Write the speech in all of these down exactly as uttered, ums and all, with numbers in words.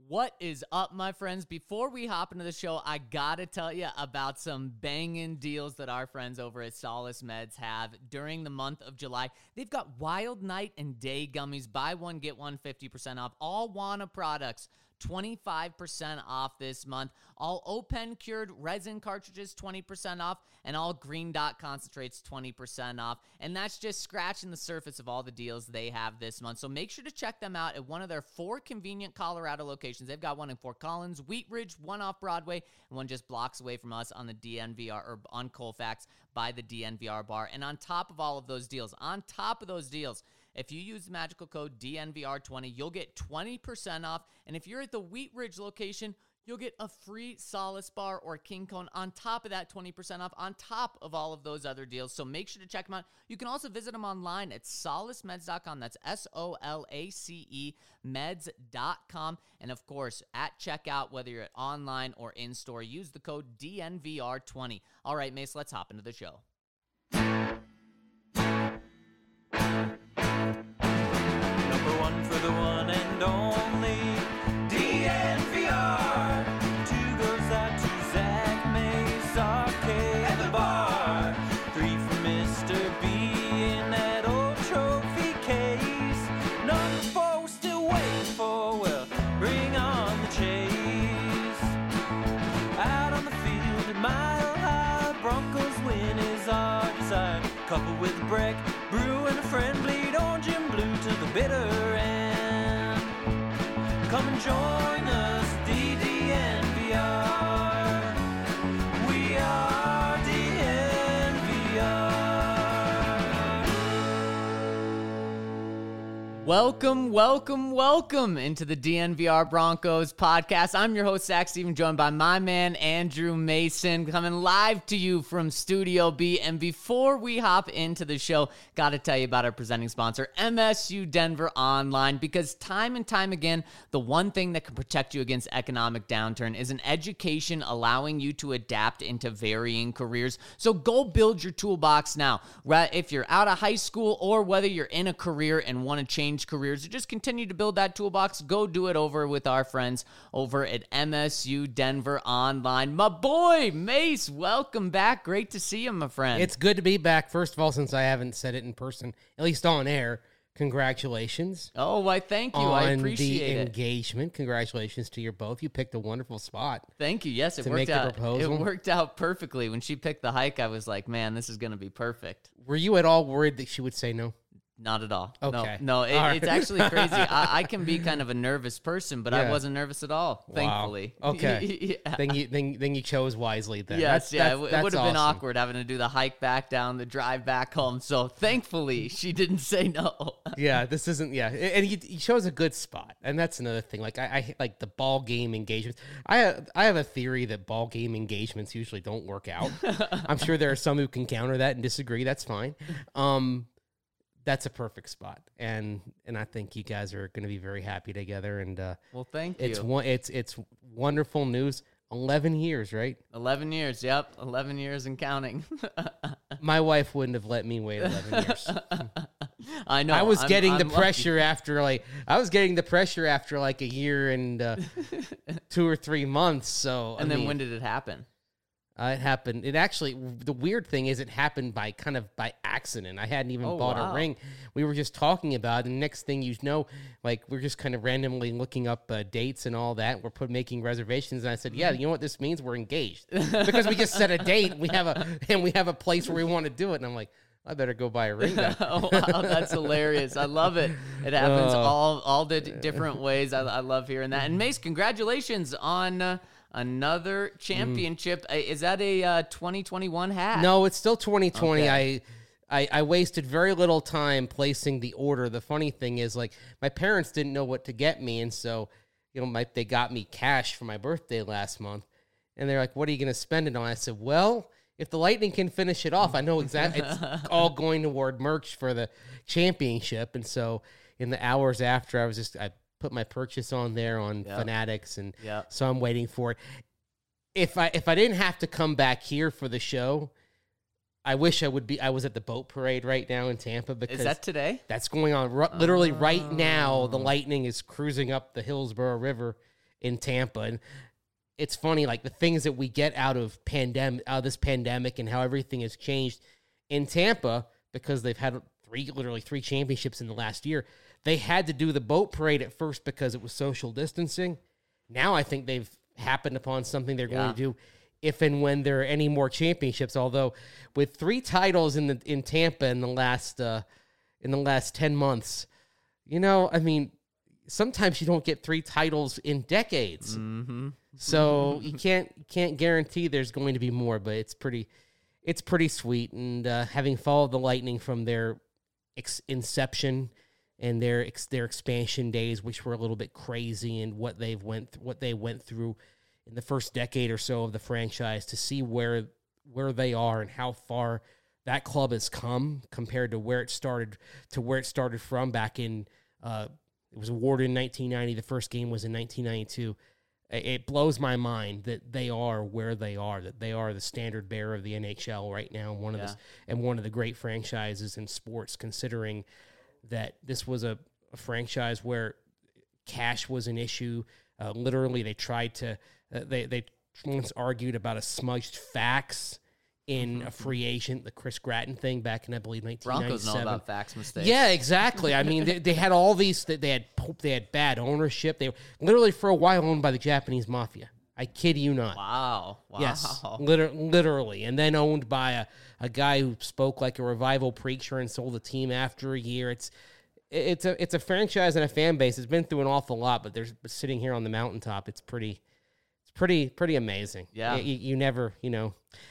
What is up, my friends? Before we hop into the show, I gotta tell you about some banging deals that our friends over at Solace Meds have during the month of July. They've got Wild Night and Day Gummies. Buy one, get one fifty percent off. All Wana products, twenty-five percent off this month. All O-Pen cured resin cartridges, twenty percent off. And all Green Dot concentrates, twenty percent off. And that's just scratching the surface of all the deals they have this month. So make sure to check them out at one of their four convenient Colorado locations. They've got one in Fort Collins, Wheat Ridge, one off Broadway, and one just blocks away from us on the D N V R, or on Colfax by the D N V R bar. And on top of all of those deals, on top of those deals, if you use the magical code D N V R twenty, you'll get twenty percent off. And if you're at the Wheat Ridge location, you'll get a free Solace bar or King Cone on top of that twenty percent off, on top of all of those other deals. So make sure to check them out. You can also visit them online at solace meds dot com. That's S O L A C E meds dot com. And of course, at checkout, whether you're at online or in-store, use the code D N V R twenty. All right, Mace, let's hop into the show. Number one for the one and only D N V R. Two goes out to Zach Mace, Arcade, and the bar. Three for Mister B in that old trophy case. Number four we're still waiting for, well, bring on the chase. Out on the field at Mile High, Broncos win is our desire. Couple with Breck, Brew, and a friend bleed orange and blue to the bitter end. Come and join us, D D N V R. We are D N V R. Welcome, welcome, welcome into the D N V R Broncos podcast. I'm your host, Zach Steven, joined by my man, Andrew Mason, coming live to you from Studio B. And before we hop into the show, got to tell you about our presenting sponsor, M S U Denver Online, because time and time again, the one thing that can protect you against economic downturn is an education allowing you to adapt into varying careers. So go build your toolbox now. Right? If you're out of high school or whether you're in a career and want to change careers or just continue to build that toolbox, go do it over with our friends over at M S U Denver Online. My boy, Mace, welcome back. Great to see you, my friend. It's good to be back. First of all, since I haven't said it in person, at least on air, congratulations. Oh, why, thank you. On I appreciate the it. engagement. Congratulations to you both. You picked a wonderful spot. Thank you. Yes, it to worked make the out. proposal. It worked out perfectly. When she picked the hike, I was like, man, this is going to be perfect. Were you at all worried that she would say no? Not at all. Okay. No, no it, All it's right. actually crazy. I, I can be kind of a nervous person, but I Yeah. wasn't nervous at all, thankfully. Wow. Okay. yeah. Then you then, then you chose wisely then. Yes, That's- yeah, that's- it, that's would have been awesome. awkward having to do the hike back down, the drive back home. So thankfully, she didn't say no. Yeah, this isn't. Yeah, and you, you chose a good spot, and that's another thing. Like I, I like the ball game engagements. I have, I have a theory that ball game engagements usually don't work out. I'm sure there are some who can counter that and disagree. That's fine. Um, that's a perfect spot, and and I think you guys are going to be very happy together. And uh, Well, thank it's you. one. It's it's wonderful news. Eleven years, right? eleven years, yep. eleven years and counting. My wife wouldn't have let me wait eleven years. I know. I was I'm- getting I'm the lucky. pressure after like I was getting the pressure after like a year and uh, two or three months. So And I then mean, when did it happen? uh, it happened? It actually the weird thing is it happened by kind of by accident. I hadn't even Oh, bought wow. a ring. We were just talking about it, and next thing you know, like we're just kind of randomly looking up uh, dates and all that. We're put making reservations, and I said, "Yeah, you know what this means? We're engaged because we just set a date. We have a and we have a place where we want to do it." And I'm like, I better go buy a ring now. Oh, wow, that's hilarious. I love it. It happens Oh. all all the d- different ways. I, I love hearing that. And Mace, congratulations on uh, another championship. Uh, Is that a uh, twenty twenty-one hat? No, it's still twenty twenty. Okay. I, I I wasted very little time placing the order. The funny thing is, like, my parents didn't know what to get me, and so, you know, my, they got me cash for my birthday last month, and they're like, "What are you going to spend it on?" I said, "Well, if the Lightning can finish it off, I know exactly it's all going toward merch for the championship." And so, in the hours after, I was just I put my purchase on there on Yep. Fanatics, and Yep. so I'm waiting for it. If I if I didn't have to come back here for the show, I wish I would be. I was at the boat parade right now in Tampa because Is that today? that's going on. R- literally right now, Oh. the Lightning is cruising up the Hillsborough River, in Tampa. And it's funny, like the things that we get out of pandemic, out of this pandemic, and how everything has changed in Tampa because they've had three, literally three championships in the last year. They had to do the boat parade at first because it was social distancing. Now I think they've happened upon something they're Yeah. going to do if and when there are any more championships. Although with three titles in the in Tampa in the last uh, in the last ten months, you know, I mean, sometimes you don't get three titles in decades. Mm-hmm. So you can't can't guarantee there's going to be more, but it's pretty it's pretty sweet. And uh, having followed the Lightning from their ex- inception and their ex- their expansion days, which were a little bit crazy, and what they've went th- what they went through in the first decade or so of the franchise, to see where where they are and how far that club has come compared to where it started to where it started from back in uh, it was awarded in nineteen ninety. The first game was in nineteen ninety-two. It blows my mind that they are where they are, that they are the standard bearer of the N H L right now, one of Yeah. the and one of the great franchises in sports, considering that this was a, a franchise where cash was an issue. Uh, literally, they tried to uh, they they once argued about a smudged fax in a free agent, the Chris Gratton thing back in, I believe, nineteen ninety-seven. Broncos know about fax mistakes. Yeah, exactly. I mean, they, they had all these. They had they had bad ownership. They were literally for a while owned by the Japanese mafia. I kid you not. Wow. Wow. Yes, liter- literally, and then owned by a, a guy who spoke like a revival preacher and sold the team after a year. It's it's a it's a franchise and a fan base. It's been through an awful lot, but there's but sitting here on the mountaintop. It's pretty, it's pretty pretty amazing. Yeah. you, you never you know.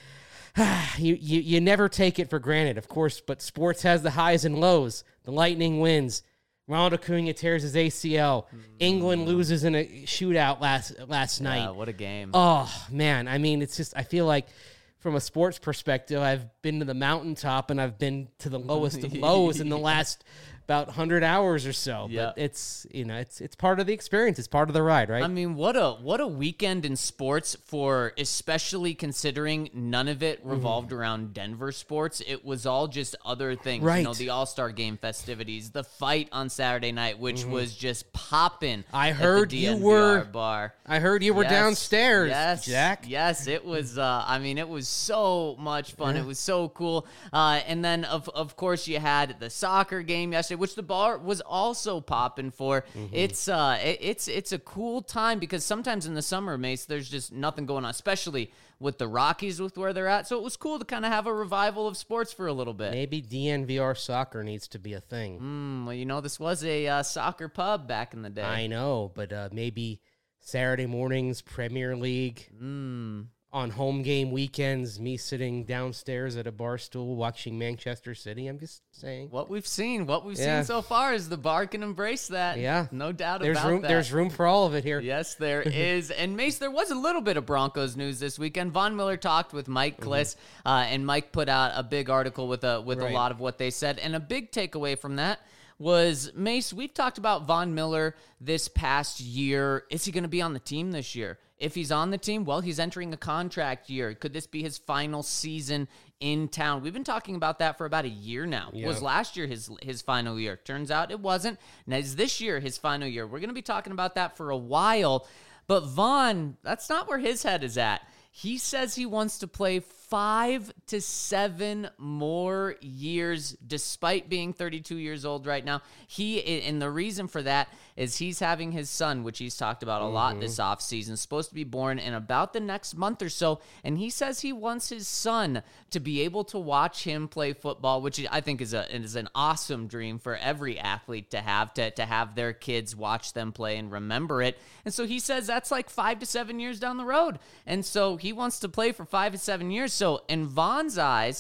You, you you never take it for granted, of course, but sports has the highs and lows. The Lightning wins. Ronald Acuna tears his A C L. Mm. England loses in a shootout last last Yeah, night. what a game. Oh, man. I mean, it's just, I feel like from a sports perspective, I've been to the mountaintop and I've been to the lowest of lows in the last about one hundred hours or so. Yeah. But it's, you know, it's it's part of the experience. It's part of the ride, right? I mean, what a what a weekend in sports, for especially considering none of it revolved mm. around Denver sports. It was all just other things. Right. You know, the All-Star Game festivities, the fight on Saturday night, which mm-hmm. was just popping. I heard at the you D N V R were bar. I heard you were yes, downstairs, yes, Jack. Yes, it was. Uh, I mean, it was so much fun. Yeah. It was so cool. Uh, and then, of of course, you had the soccer game yesterday, which the bar was also popping for. Mm-hmm. It's uh, it, it's it's a cool time because sometimes in the summer, Mace, there's just nothing going on, especially with the Rockies with where they're at. So it was cool to kind of have a revival of sports for a little bit. Maybe D N V R soccer needs to be a thing. Mm, well, you know, this was a uh, soccer pub back in the day. I know, but uh, maybe Saturday mornings, Premier League. Mm. On home game weekends, me sitting downstairs at a bar stool watching Manchester City. I'm just saying. What we've seen, what we've yeah. seen so far is the bar can embrace that. Yeah. No doubt there's about room, that. There's room for all of it here. Yes, there is. And Mace, there was a little bit of Broncos news this weekend. Von Miller talked with Mike Kliss, mm-hmm. uh, and Mike put out a big article with a with right. a lot of what they said. And a big takeaway from that was, Mace, we've talked about Von Miller this past year. Is he going to be on the team this year? If he's on the team, well, he's entering a contract year. Could this be his final season in town? We've been talking about that for about a year now. Yeah. Was last year his his final year? Turns out it wasn't. Now, is this year his final year? We're going to be talking about that for a while. But Von, that's not where his head is at. He says he wants to play five to seven more years, despite being thirty-two years old right now. He, and the reason for that is he's having his son, which he's talked about a mm-hmm. lot this offseason, supposed to be born in about the next month or so. And he says he wants his son to be able to watch him play football, which I think is a is an awesome dream for every athlete to have, to, to have their kids watch them play and remember it. And so he says that's like five to seven years down the road. And so he wants to play for five to seven years. So in Von's eyes,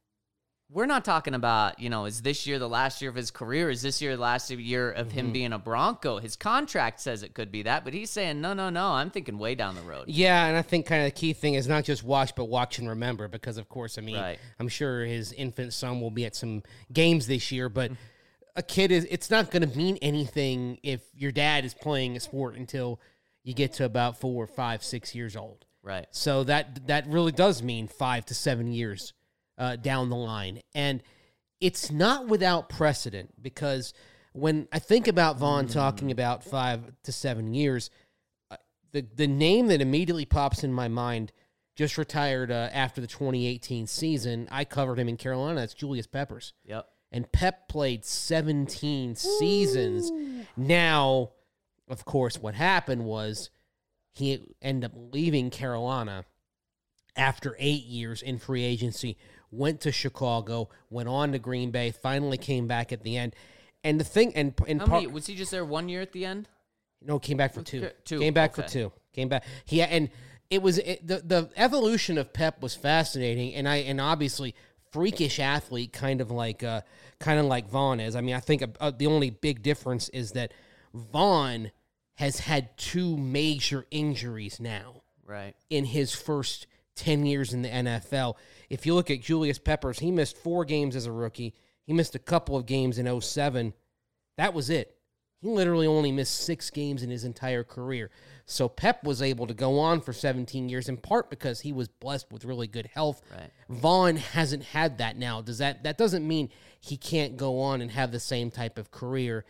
we're not talking about, you know, is this year the last year of his career? Is this year the last year of mm-hmm. him being a Bronco? His contract says it could be that, but he's saying, no, no, no, I'm thinking way down the road. Yeah, and I think kind of the key thing is not just watch, but watch and remember, because, of course, I mean, right. I'm sure his infant son will be at some games this year, but a kid is, it's not going to mean anything if your dad is playing a sport until you get to about four, five, six years old. Right. So that that really does mean five to seven years uh, down the line. And it's not without precedent, because when I think about Von mm. talking about five to seven years, uh, the the name that immediately pops in my mind just retired uh, after the twenty eighteen season. I covered him in Carolina. That's Julius Peppers. Yep. And Pep played seventeen seasons. Now, of course, what happened was he ended up leaving Carolina after eight years in free agency, went to Chicago, went on to Green Bay, finally came back at the end. And the thing, and in How part, many, was he just there one year at the end? no, came back for two. Two, Came back okay. for two. Came back. He and it was it, the the evolution of Pep was fascinating, and I and obviously freakish athlete, kind of like uh, kind of like Vaughn is. I mean, I think uh, the only big difference is that Vaughn has had two major injuries now Right. in his first ten years in the N F L. If you look at Julius Peppers, he missed four games as a rookie. He missed a couple of games in oh seven. That was it. He literally only missed six games in his entire career. So Pep was able to go on for seventeen years, in part because he was blessed with really good health. Right. Vaughn hasn't had that now. Does that that doesn't mean he can't go on and have the same type of career.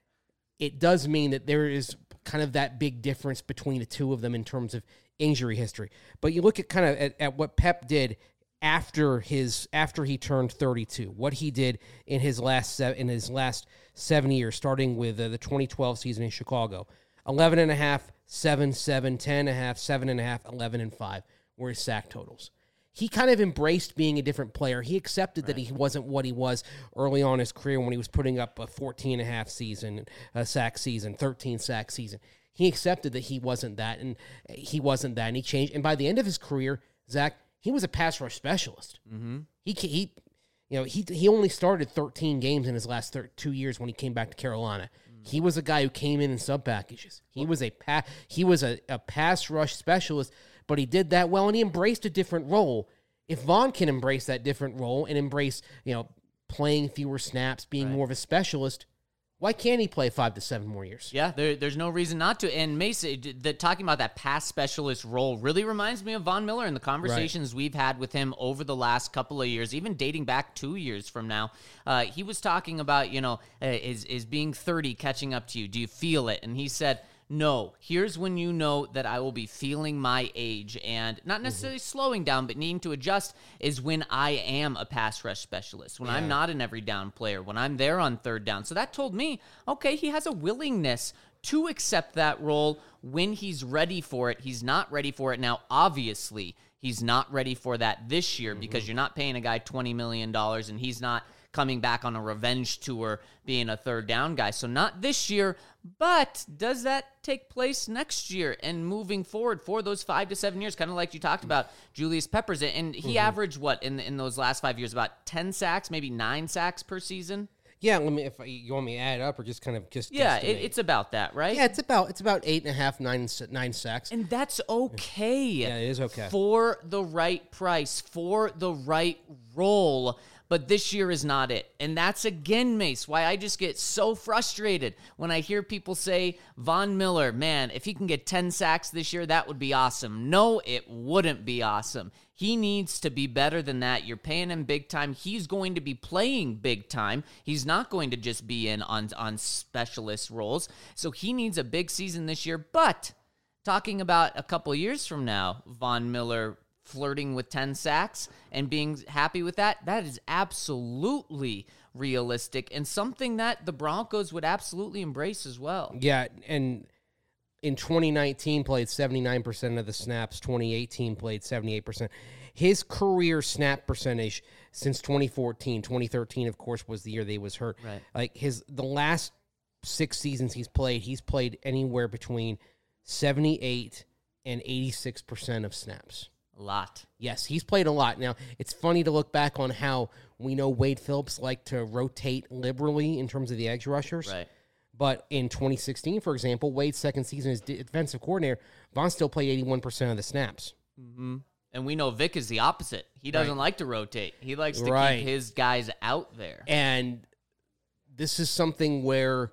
It does mean that there is kind of that big difference between the two of them in terms of injury history. But you look at kind of at, at what Pep did after his after he turned thirty-two, what he did in his last se- in his last seven years, starting with uh, the twenty twelve season in Chicago. eleven and a half, seven, seven, ten and a half, seven and a half, eleven and five were his sack totals. He kind of embraced being a different player. He accepted right. that he wasn't what he was early on in his career when he was putting up a fourteen and a half season, a sack season, thirteen sack season. He accepted that he wasn't that, and he wasn't that, and he changed. And by the end of his career, Zach, he was a pass rush specialist. Mm-hmm. He, he, you know, he he only started thirteen games in his last thir- two years when he came back to Carolina. Mm. He was a guy who came in in sub packages. He was a pa- he was a, a pass rush specialist, but he did that well, and he embraced a different role. If Vaughn can embrace that different role and embrace, you know, playing fewer snaps, being right. more of a specialist, why can't he play five to seven more years? Yeah, there, there's no reason not to. And Mason, the, talking about that pass specialist role really reminds me of Von Miller and the conversations right. we've had with him over the last couple of years, even dating back two years from now. Uh, he was talking about, you know, uh, is, is being thirty catching up to you? Do you feel it? And he said, no, here's when you know that I will be feeling my age and not necessarily mm-hmm. slowing down, but needing to adjust is when I am a pass rush specialist, when yeah. I'm not an every down player, when I'm there on third down. So that told me, okay, he has a willingness to accept that role when he's ready for it. He's not ready for it now. Obviously, he's not ready for that this year mm-hmm. because you're not paying a guy twenty million dollars and he's not coming back on a revenge tour being a third down guy. So not this year, but does that take place next year and moving forward for those five to seven years, kind of like you talked about Julius Peppers. And he mm-hmm. averaged what in in those last five years? About ten sacks, maybe nine sacks per season? Yeah, let me. If you want me to add it up or just kind of just yeah, it, it's about that, right? Yeah, it's about it's about eight and a half, nine nine sacks, and that's okay. Yeah, it is okay for the right price, for the right role. But this year is not it. And that's, again, Mace, why I just get so frustrated when I hear people say, Von Miller, man, if he can get ten sacks this year, that would be awesome. No, it wouldn't be awesome. He needs to be better than that. You're paying him big time. He's going to be playing big time. He's not going to just be in on, on specialist roles. So he needs a big season this year. But talking about a couple years from now, Von Miller flirting with ten sacks and being happy with that, that is absolutely realistic and something that the Broncos would absolutely embrace as well. Yeah, and in twenty nineteen played seventy-nine percent of the snaps, twenty eighteen played seventy-eight percent. His career snap percentage since twenty fourteen, twenty thirteen, of course, was the year that he was hurt. Right. Like his the last six seasons he's played, he's played anywhere between seventy-eight and eighty-six percent of snaps. A lot. Yes, he's played a lot. Now, it's funny to look back on how we know Wade Phillips liked to rotate liberally in terms of the edge rushers. Right. But in twenty sixteen, for example, Wade's second season as defensive coordinator, Vaughn still played eighty-one percent of the snaps. Mm-hmm. And we know Vic is the opposite. He doesn't right. like to rotate. He likes to right. keep his guys out there. And this is something where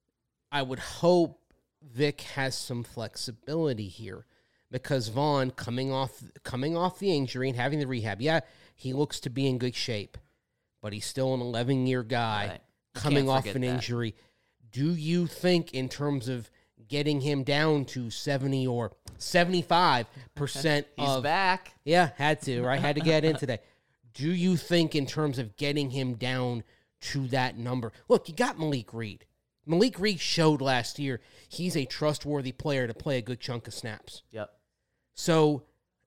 I would hope Vic has some flexibility here. Because Vaughn, coming off coming off the injury and having the rehab, yeah, he looks to be in good shape, but he's still an eleven-year guy right. coming off an that. injury. Do you think, in terms of getting him down to seventy or seventy-five percent He's of back. Yeah, had to, right? Had to get in today. Do you think in terms of getting him down to that number? Look, you got Malik Reed. Malik Reed showed last year he's a trustworthy player to play a good chunk of snaps. Yep. So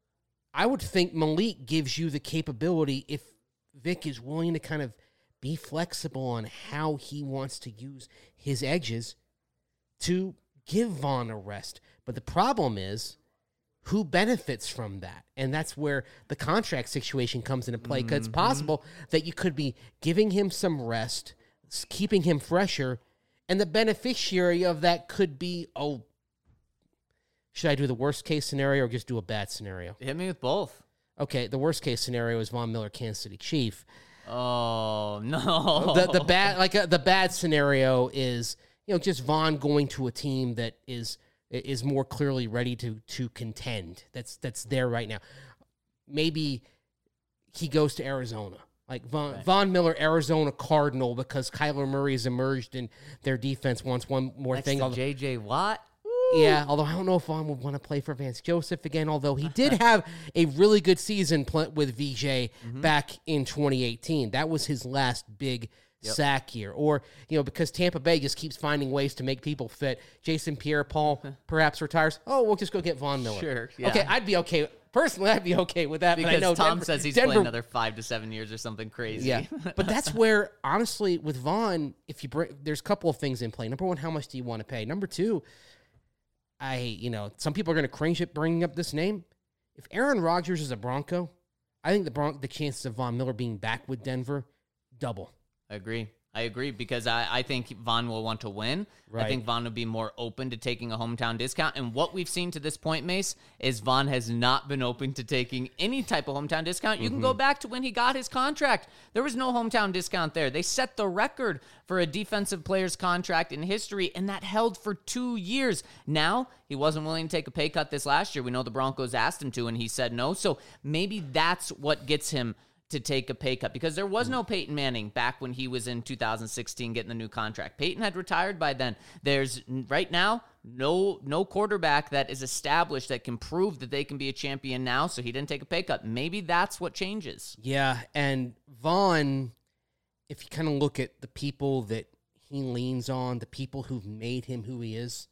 I would think Malik gives you the capability, if Vic is willing to kind of be flexible on how he wants to use his edges, to give Vaughn a rest. But the problem is, who benefits from that? And that's where the contract situation comes into play, because mm-hmm. it's possible that you could be giving him some rest, keeping him fresher, and the beneficiary of that could be, oh, should I do the worst case scenario or just do a bad scenario? Hit me with both. Okay, the worst case scenario is Von Miller, Kansas City Chief. Oh, no. The the bad like uh, the bad scenario is, you know, just Von going to a team that is is more clearly ready to to contend. That's that's there right now. Maybe he goes to Arizona. Like Von, right. Von Miller, Arizona Cardinal, because Kyler Murray has emerged and their defense wants one more Next thing. To J J Watt? Yeah, although I don't know if Vaughn would want to play for Vance Joseph again, although he did have a really good season pl- with V J mm-hmm. back in twenty eighteen. That was his last big yep. sack year. Or, you know, because Tampa Bay just keeps finding ways to make people fit. Jason Pierre-Paul perhaps retires. Oh, we'll just go get Von Miller. Sure, yeah. Okay, I'd be okay. Personally, I'd be okay with that. Because but I know Tom Denver, says he's Denver, playing another five to seven years or something crazy. Yeah, but that's where, honestly, with Vaughn, if you bring, there's a couple of things in play. Number one, how much do you want to pay? Number two, I, you know, some people are going to cringe at bringing up this name. If Aaron Rodgers is a Bronco, I think the Bron- the chances of Von Miller being back with Denver, double. I agree. I agree because I, I think Von will want to win. Right. I think Von will be more open to taking a hometown discount. And what we've seen to this point, Mace, is Von has not been open to taking any type of hometown discount. You mm-hmm. can go back to when he got his contract. There was no hometown discount there. They set the record for a defensive player's contract in history, and that held for two years. Now, he wasn't willing to take a pay cut this last year. We know the Broncos asked him to, and he said no. So maybe that's what gets him to take a pay cut, because there was no Peyton Manning back when he was in two thousand sixteen getting the new contract. Peyton had retired by then. There's right now no no quarterback that is established that can prove that they can be a champion now, so he didn't take a pay cut. Maybe that's what changes. Yeah, and Vaughn, if you kind of look at the people that he leans on, the people who've made him who he is,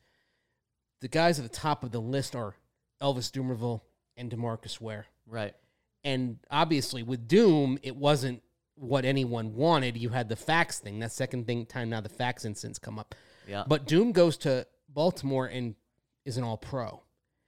the guys at the top of the list are Elvis Dumervil and DeMarcus Ware. Right. And obviously with Doom, it wasn't what anyone wanted. You had the fax thing. That second thing time now the fax incidents come up. Yeah. But Doom goes to Baltimore and is an all-pro.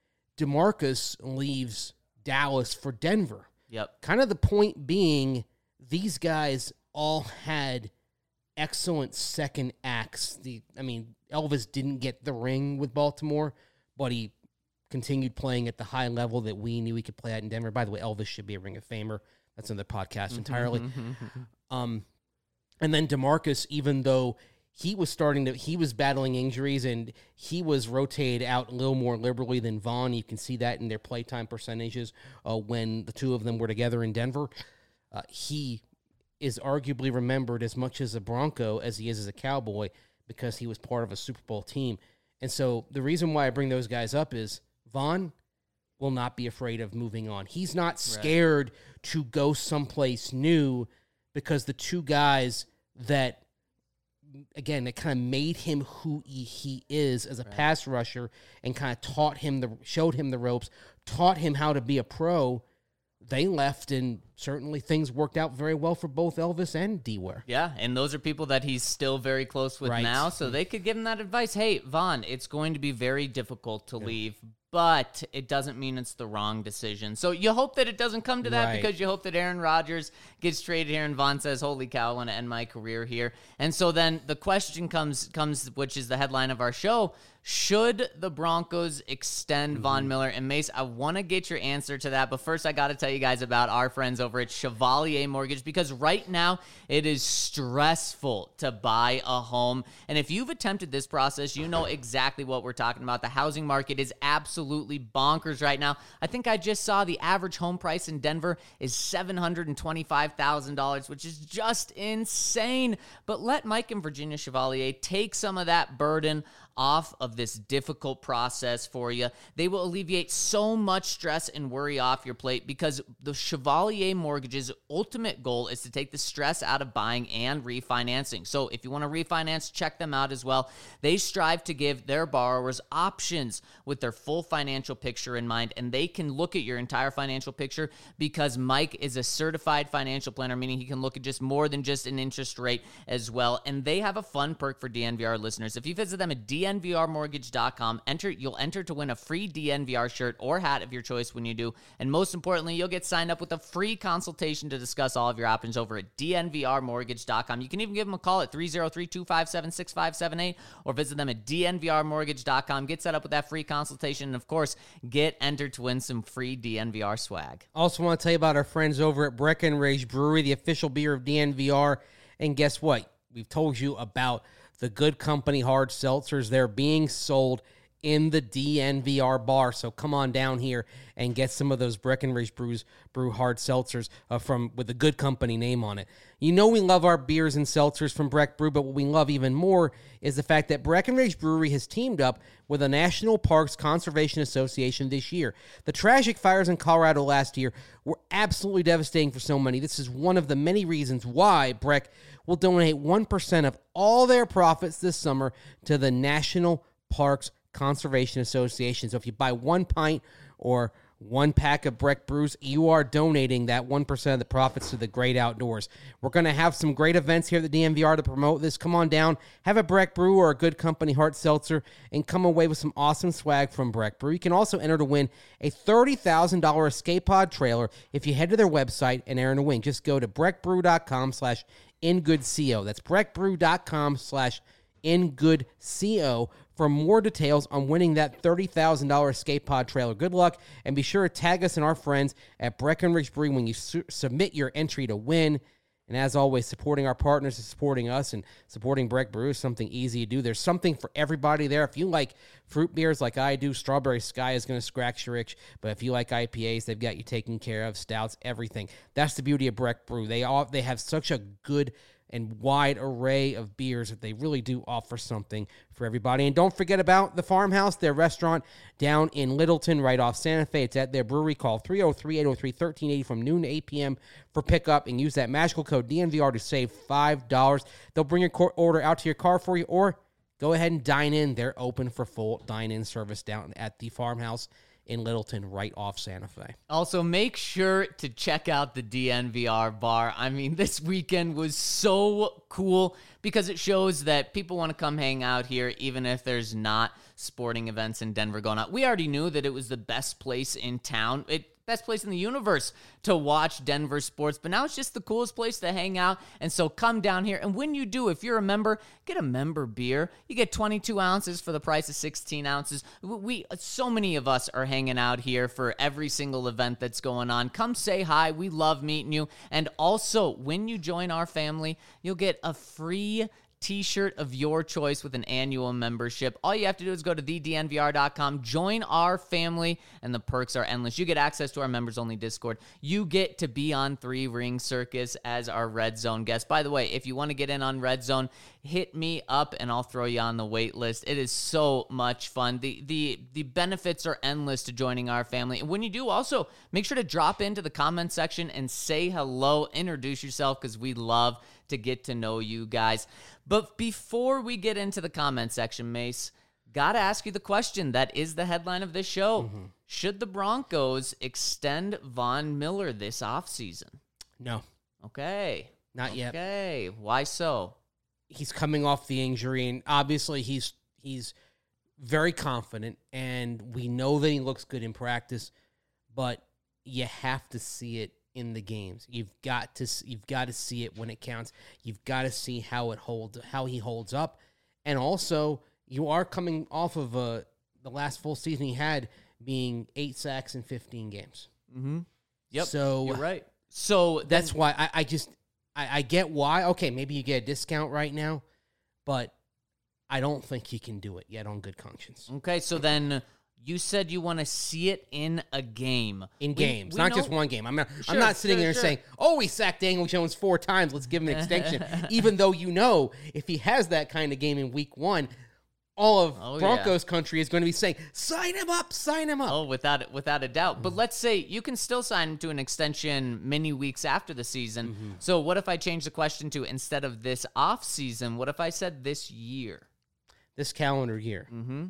DeMarcus leaves Dallas for Denver. Yep. Kind of the point being, these guys all had excellent second acts. The I mean, Elvis didn't get the ring with Baltimore, but he continued playing at the high level that we knew he could play at in Denver. By the way, Elvis should be a Ring of Famer. That's another podcast entirely. um, and then DeMarcus, even though he was starting to, he was battling injuries and he was rotated out a little more liberally than Vaughn. You can see that in their playtime percentages uh, when the two of them were together in Denver. Uh, he is arguably remembered as much as a Bronco as he is as a Cowboy because he was part of a Super Bowl team. And so the reason why I bring those guys up is Vaughn will not be afraid of moving on. He's not scared right. to go someplace new because the two guys that, again, that kind of made him who he, he is as a right. pass rusher and kind of taught him, the showed him the ropes, taught him how to be a pro, they left, and certainly things worked out very well for both Elvis and D-Ware. Yeah, and those are people that he's still very close with right. now, so they could give him that advice. Hey, Vaughn, it's going to be very difficult to yeah. leave, but it doesn't mean it's the wrong decision. So you hope that it doesn't come to that right. because you hope that Aaron Rodgers gets traded here and Vaughn says, holy cow, I want to end my career here. And so then the question comes, comes, which is the headline of our show, should the Broncos extend mm-hmm. Von Miller? And Mace, I want to get your answer to that, but first I got to tell you guys about our friends over at Chevalier Mortgage, because right now it is stressful to buy a home. And if you've attempted this process, you know exactly what we're talking about. The housing market is absolutely bonkers right now. I think I just saw the average home price in Denver is seven hundred twenty-five thousand dollars, which is just insane. But let Mike and Virginia Chevalier take some of that burden off of this difficult process for you. They will alleviate so much stress and worry off your plate because the Chevalier Mortgage's ultimate goal is to take the stress out of buying and refinancing. So if you want to refinance, check them out as well. They strive to give their borrowers options with their full financial picture in mind, and they can look at your entire financial picture because Mike is a certified financial planner, meaning he can look at just more than just an interest rate as well. And they have a fun perk for D N V R listeners. If you visit them at D N V R mortgage dot com, enter you'll enter to win a free D N V R shirt or hat of your choice when you do. And most importantly, you'll get signed up with a free consultation to discuss all of your options over at D N V R mortgage dot com. You can even give them a call at three oh three, two five seven, six five seven eight or visit them at D N V R mortgage dot com. Get set up with that free consultation and, of course, get entered to win some free D N V R swag. Also want to tell you about our friends over at Breckenridge Brewery, the official beer of D N V R. And guess what? We've told you about the Good Company hard seltzers. They're being sold in the D N V R bar. So come on down here and get some of those Breckenridge Brews Brew hard seltzers uh, from with the Good Company name on it. You know we love our beers and seltzers from Breck Brew, but what we love even more is the fact that Breckenridge Brewery has teamed up with the National Parks Conservation Association this year. The tragic fires in Colorado last year were absolutely devastating for so many. This is one of the many reasons why Breck will donate one percent of all their profits this summer to the National Parks Conservation Association. So if you buy one pint or one pack of Breck Brews, you are donating that one percent of the profits to the great outdoors. We're going to have some great events here at the D N V R to promote this. Come on down, have a Breck Brew or a Good Company hard seltzer, and come away with some awesome swag from Breck Brew. You can also enter to win a thirty thousand dollars Escape Pod trailer if you head to their website and enter to win. Just go to breckbrew.com slash ingoodco. That's breckbrew.com slash ingoodco for more details on winning that thirty thousand dollars Escape Pod trailer. Good luck, and be sure to tag us and our friends at Breckenridge Brewery when you su- submit your entry to win. And as always, supporting our partners is supporting us, and supporting Breck Brew is something easy to do. There's something for everybody there. If you like fruit beers like I do, Strawberry Sky is going to scratch your itch. But if you like I P As, they've got you taken care of. Stouts, everything. That's the beauty of Breck Brew. They all they have such a good and wide array of beers that they really do offer something for everybody. And don't forget about the Farmhouse, their restaurant down in Littleton, right off Santa Fe. It's at their brewery. Call three oh three, eight oh three, one three eight zero from noon to eight p.m. for pickup, and use that magical code D N V R to save five dollars. They'll bring your order out to your car for you, or go ahead and dine in. They're open for full dine-in service down at the Farmhouse in Littleton, right off Santa Fe. Also, make sure to check out the D N V R bar. I mean, this weekend was so cool because it shows that people want to come hang out here, even if there's not sporting events in Denver going on. We already knew that it was the best place in town. It best place in the universe to watch Denver sports, but now it's just the coolest place to hang out. And so come down here, and when you do, if you're a member, get a member beer. You get twenty-two ounces for the price of sixteen ounces. We so many of us are hanging out here for every single event that's going on. Come say hi. We love meeting you. And also, when you join our family, you'll get a free t-shirt of your choice with an annual membership. All you have to do is go to the D N V R dot com, join our family, and the perks are endless. You get access to our members-only Discord. You get to be on Three Ring Circus as our Red Zone guest. By the way, if you want to get in on Red Zone, hit me up and I'll throw you on the wait list. It is so much fun. The the the benefits are endless to joining our family. And when you do, also make sure to drop into the comment section and say hello, introduce yourself, because we love to get to know you guys. But before we get into the comment section, Mace, gotta ask you the question that is the headline of this show. Mm-hmm. Should the Broncos extend Von Miller this offseason? No. Okay. Not yet. Okay. Why so? He's coming off the injury, and obviously he's he's very confident, and we know that he looks good in practice, but you have to see it in the games. You've got to you've got to see it when it counts. You've got to see how it holds how he holds up, and also you are coming off of uh, the last full season he had being eight sacks in fifteen games. Mm-hmm. Yep. So you're right. So that's then, why I, I just I, I get why. Okay, maybe you get a discount right now, but I don't think he can do it yet on good conscience. Okay, so then you said you want to see it in a game. In we, games, we not know, just one game. I'm not sure, I'm not sitting sure, there sure. saying, oh, he sacked Daniel Jones four times, let's give him an extension. Even though you know if he has that kind of game in week one, all of Oh, Broncos country is going to be saying, sign him up, sign him up. Oh, without without a doubt. But let's say you can still sign him to an extension many weeks after the season. Mm-hmm. So what if I change the question to instead of this off season, what if I said this year? This calendar year. Mm-hmm.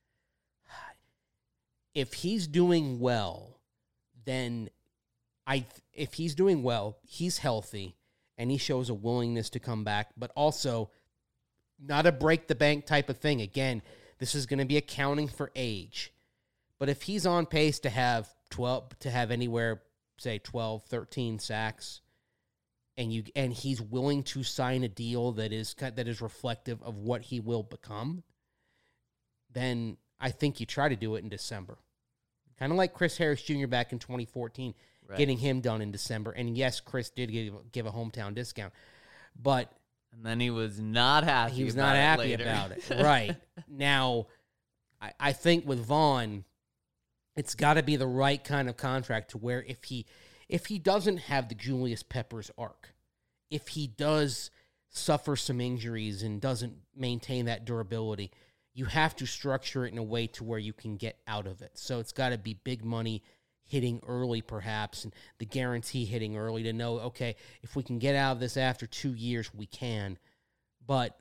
If he's doing well, then I if he's doing well, he's healthy, and he shows a willingness to come back, but also not a break the bank type of thing. Again, this is going to be accounting for age. But if he's on pace to have twelve to have anywhere, say twelve, thirteen sacks, and you and he's willing to sign a deal that is that is reflective of what he will become, then I think you try to do it in December. Kind of like Chris Harris Junior back in twenty fourteen, right. Getting him done in December. And yes, Chris did give, give a hometown discount, but and then he was not happy. He was about not it happy later. about it. Right. Now, I, I think with Vaughn, it's got to be the right kind of contract to where if he if he doesn't have the Julius Peppers arc, if he does suffer some injuries and doesn't maintain that durability, you have to structure it in a way to where you can get out of it. So it's got to be big money hitting early, perhaps, and the guarantee hitting early to know, okay, if we can get out of this after two years, we can. But,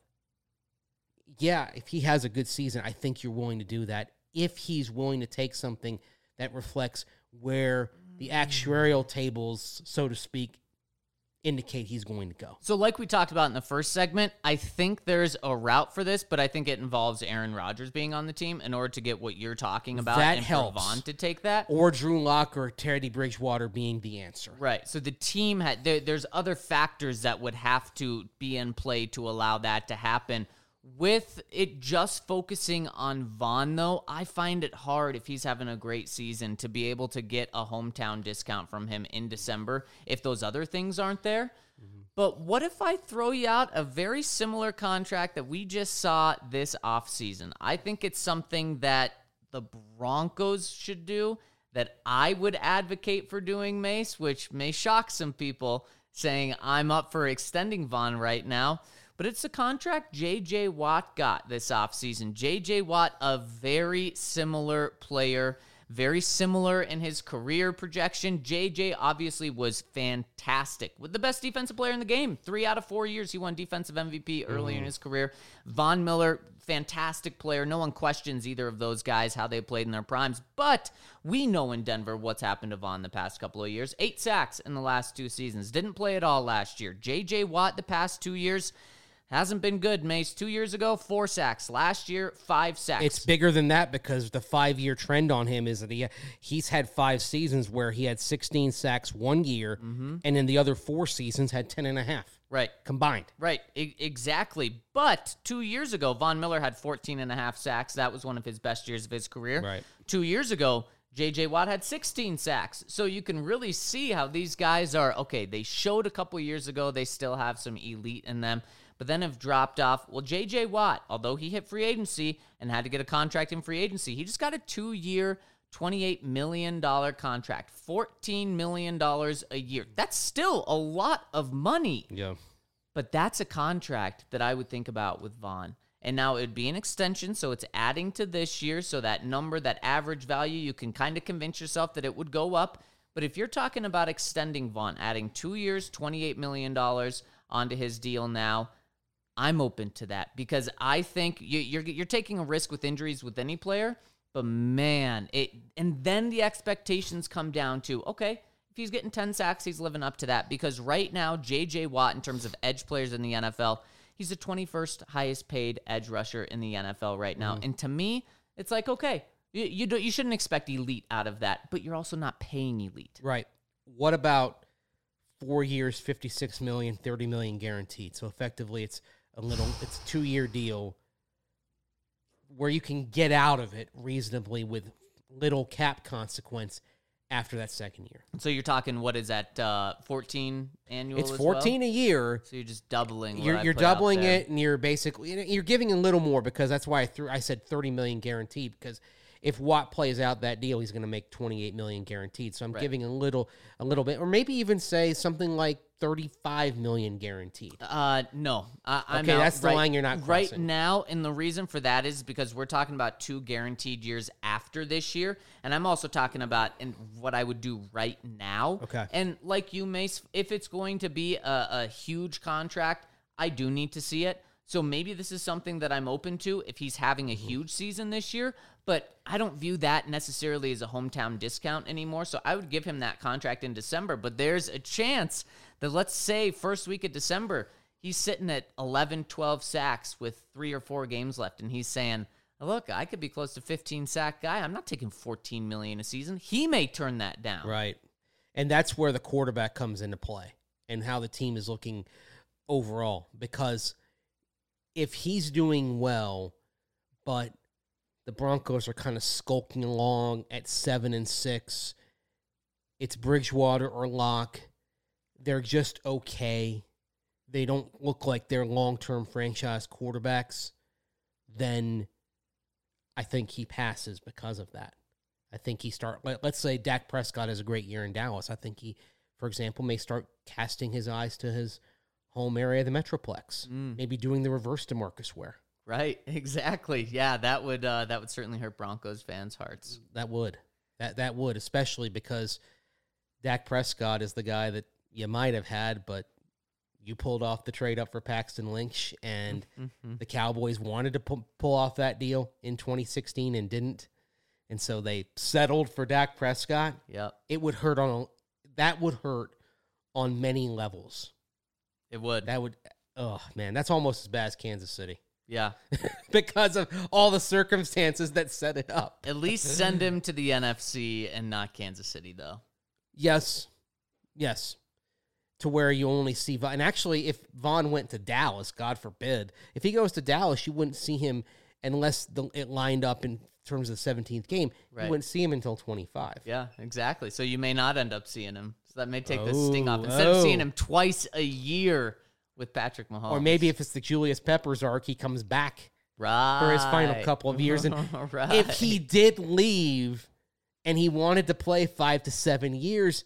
yeah, if he has a good season, I think you're willing to do that. If he's willing to take something that reflects where the actuarial tables, so to speak, indicate he's going to go. So like we talked about in the first segment, I think there's a route for this, but I think it involves Aaron Rodgers being on the team in order to get what you're talking about that and helps. for Vaughn to take that. Or Drew Lock or Teddy Bridgewater being the answer. Right. So the team had there, there's other factors that would have to be in play to allow that to happen. With it just focusing on Vaughn, though, I find it hard if he's having a great season to be able to get a hometown discount from him in December if those other things aren't there. Mm-hmm. But what if I throw you out a very similar contract that we just saw this offseason? I think it's something that the Broncos should do, that I would advocate for doing, Mace, which may shock some people saying I'm up for extending Vaughn right now. But it's the contract J J. Watt got this offseason. J J. Watt, a very similar player, very similar in his career projection. J J obviously was fantastic, with the best defensive player in the game. Three out of four years he won defensive M V P early mm-hmm. in his career. Von Miller, fantastic player. No one questions either of those guys, how they played in their primes. But we know in Denver what's happened to Von the past couple of years. Eight sacks in the last two seasons. Didn't play at all last year. J J. Watt the past two years hasn't been good, Mace. Two years ago, four sacks. Last year, five sacks. It's bigger than that because the five-year trend on him is that he he's had five seasons where he had sixteen sacks one year, mm-hmm. and in the other four seasons had ten and a half. Right. Combined. Right. I- exactly. But two years ago, Von Miller had fourteen and a half sacks. That was one of his best years of his career. Right. Two years ago, J J. Watt had sixteen sacks. So you can really see how these guys are, okay, they showed a couple years ago they still have some elite in them, but then have dropped off. Well, J J. Watt, although he hit free agency and had to get a contract in free agency, he just got a two-year, twenty-eight million dollars contract, fourteen million dollars a year. That's still a lot of money. Yeah. But that's a contract that I would think about with Vaughn. And now it would be an extension, so it's adding to this year, so that number, that average value, you can kind of convince yourself that it would go up. But if you're talking about extending Vaughn, adding two years, twenty-eight million dollars onto his deal now, I'm open to that because I think you, you're you're taking a risk with injuries with any player, but man, it and then the expectations come down to, okay, if he's getting ten sacks, he's living up to that because right now, J J. Watt, in terms of edge players in the N F L, he's the twenty-first highest paid edge rusher in the N F L right now. Mm. And to me, it's like, okay, you you, don't, you shouldn't expect elite out of that, but you're also not paying elite. Right. What about four years, fifty-six million dollars, thirty million dollars guaranteed? So effectively, it's a little, it's a two-year deal where you can get out of it reasonably with little cap consequence after that second year. So you're talking, what is that, uh, fourteen annual? It's as fourteen well? a year. So you're just doubling. What You're I you're put out doubling there. it, and you're basically you're giving a little more because that's why I threw I said thirty million guaranteed because if Watt plays out that deal, he's going to make twenty-eight million dollars guaranteed. So I'm Right. giving a little, a little bit, or maybe even say something like thirty-five million dollars guaranteed. Uh, no. I, I'm Okay, out that's the right, line you're not right crossing. now, and the reason for that is because we're talking about two guaranteed years after this year, and I'm also talking about in what I would do right now. Okay. And like you, Mace, if it's going to be a, a huge contract, I do need to see it. So maybe this is something that I'm open to if he's having a huge season this year, but I don't view that necessarily as a hometown discount anymore. So I would give him that contract in December, but there's a chance that, let's say first week of December, he's sitting at eleven, twelve sacks with three or four games left. And he's saying, look, I could be close to fifteen sack guy. I'm not taking fourteen million a season. He may turn that down. Right. And that's where the quarterback comes into play and how the team is looking overall. Because if he's doing well, but the Broncos are kind of skulking along at seven and six, it's Bridgewater or Locke. They're just okay. They don't look like they're long-term franchise quarterbacks. Then I think he passes because of that. I think he start. Let, let's say Dak Prescott has a great year in Dallas. I think he, for example, may start casting his eyes to his home area, the Metroplex. Mm. Maybe doing the reverse to Marcus Ware. Right, exactly. Yeah, that would uh, that would certainly hurt Broncos fans' hearts. That would. That that would, especially because Dak Prescott is the guy that you might have had, but you pulled off the trade up for Paxton Lynch, and Mm-hmm. the Cowboys wanted to pu- pull off that deal in twenty sixteen and didn't. And so they settled for Dak Prescott. Yep, It would hurt on a, that would hurt on many levels. it would. That would, oh man, that's almost as bad as Kansas City Yeah, because of all the circumstances that set it up. at least send him to the N F C and not Kansas City, though. Yes, yes, to where you only see Von. And actually, if Vaughn went to Dallas, God forbid, if he goes to Dallas, you wouldn't see him unless the, it lined up in terms of the seventeenth game. Right. You wouldn't see him until twenty-five. Yeah, exactly. So you may not end up seeing him. So that may take the Oh, sting off. Instead oh. of seeing him twice a year with Patrick Mahomes. Or maybe if it's the Julius Peppers arc, he comes back right. for his final couple of years. And right. if he did leave and he wanted to play five to seven years,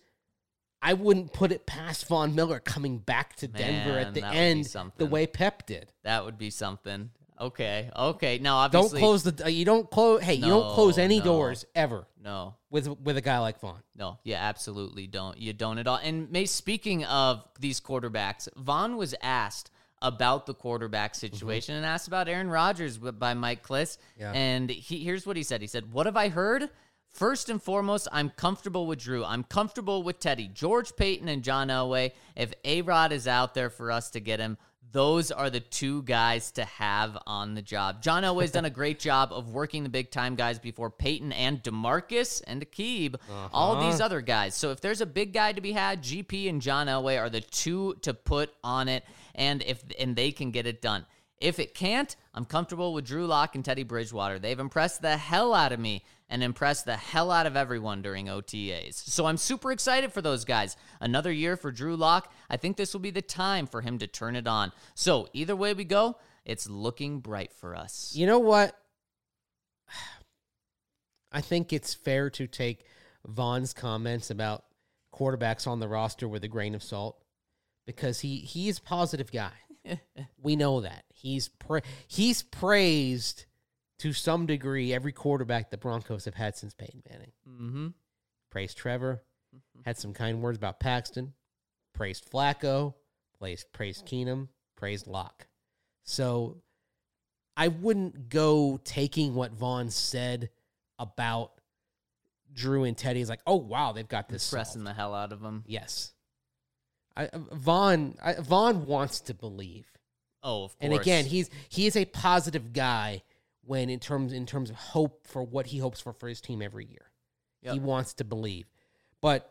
I wouldn't put it past Von Miller coming back to Denver Man, at the that would be end the something. way Pep did. That would be something. Okay, okay. Now, Don't obviously... close the. uh, You don't close. Hey, you don't No, close any no. doors ever No, with with a guy like Vaughn. no. Yeah, absolutely don't. You don't at all. And May, speaking of these quarterbacks, Vaughn was asked about the quarterback situation and asked about Aaron Rodgers by Mike Kliss. Yeah. And he, here's what he said. He said, "What have I heard? First and foremost, I'm comfortable with Drew. I'm comfortable with Teddy, George Payton, and John Elway. If A-Rod is out there for us to get him, those are the two guys to have on the job. John Elway's done a great job of working the big-time guys before Peyton and DeMarcus and Akib, uh-huh. all these other guys. So if there's a big guy to be had, G P and John Elway are the two to put on it, and if and they can get it done. If it can't, I'm comfortable with Drew Lock and Teddy Bridgewater. They've impressed the hell out of me and impressed the hell out of everyone during O T As. So I'm super excited for those guys. Another year for Drew Lock. I think this will be the time for him to turn it on. So either way we go, it's looking bright for us. You know what? I think it's fair to take Vaughn's comments about quarterbacks on the roster with a grain of salt because he he's a positive guy. We know that. He's pra- he's praised to some degree every quarterback the Broncos have had since Peyton Manning. Mm-hmm. Praised Trevor, had some kind words about Paxton, praised Flacco, praised, praised Keenum, praised Locke. So I wouldn't go taking what Vaughn said about Drew and Teddy as like, oh, wow, they've got this Pressing solved. the hell out of him. Yes. I, Vaughn I, Vaughn wants to believe. Oh, of course. And again, he's he is a positive guy when in terms in terms of hope for what he hopes for for his team every year. Yep. He wants to believe. But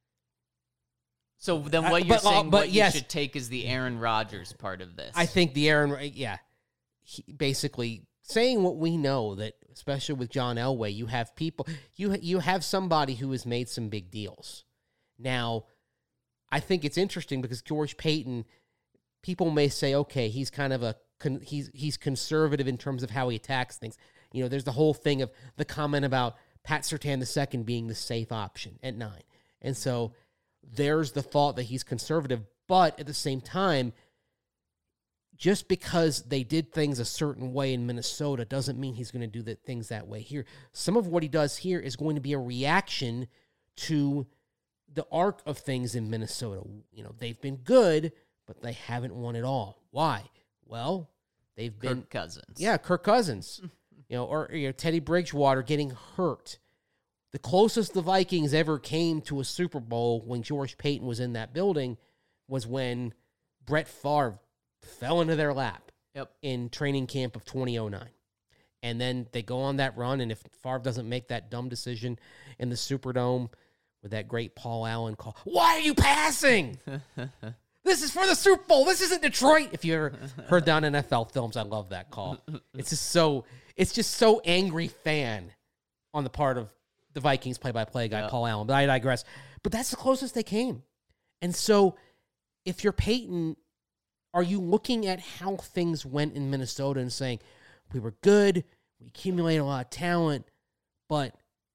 So then I- what you're but, uh, saying, but what yes. you should take is the Aaron Rodgers part of this. I think the Aaron, yeah, he basically saying what we know that, especially with John Elway, you have people, you you have somebody who has made some big deals. Now, I think it's interesting because George Payton, people may say, okay, he's kind of a con, he's he's conservative in terms of how he attacks things. You know, there's the whole thing of the comment about Pat Surtain the second being the safe option at nine. And so there's the thought that he's conservative, but at the same time, just because they did things a certain way in Minnesota doesn't mean he's going to do the things that way here. Some of what he does here is going to be a reaction to the arc of things in Minnesota. You know, they've been good, but they haven't won it all. Why? Well, they've Kirk been Cousins. Yeah, Kirk Cousins. you know, or you know, Teddy Bridgewater getting hurt. The closest the Vikings ever came to a Super Bowl when George Payton was in that building was when Brett Favre fell into their lap yep. in training camp of twenty oh nine. And then they go on that run, and if Favre doesn't make that dumb decision in the Superdome with that great Paul Allen call, why are you passing? This is for the Super Bowl. This isn't Detroit. If you ever heard that on N F L films, I love that call. It's just so it's just so angry fan on the part of the Vikings play-by-play guy, yeah. Paul Allen. But I digress. But that's the closest they came. And so if you're Peyton, are you looking at how things went in Minnesota and saying, we were good, we accumulated a lot of talent, but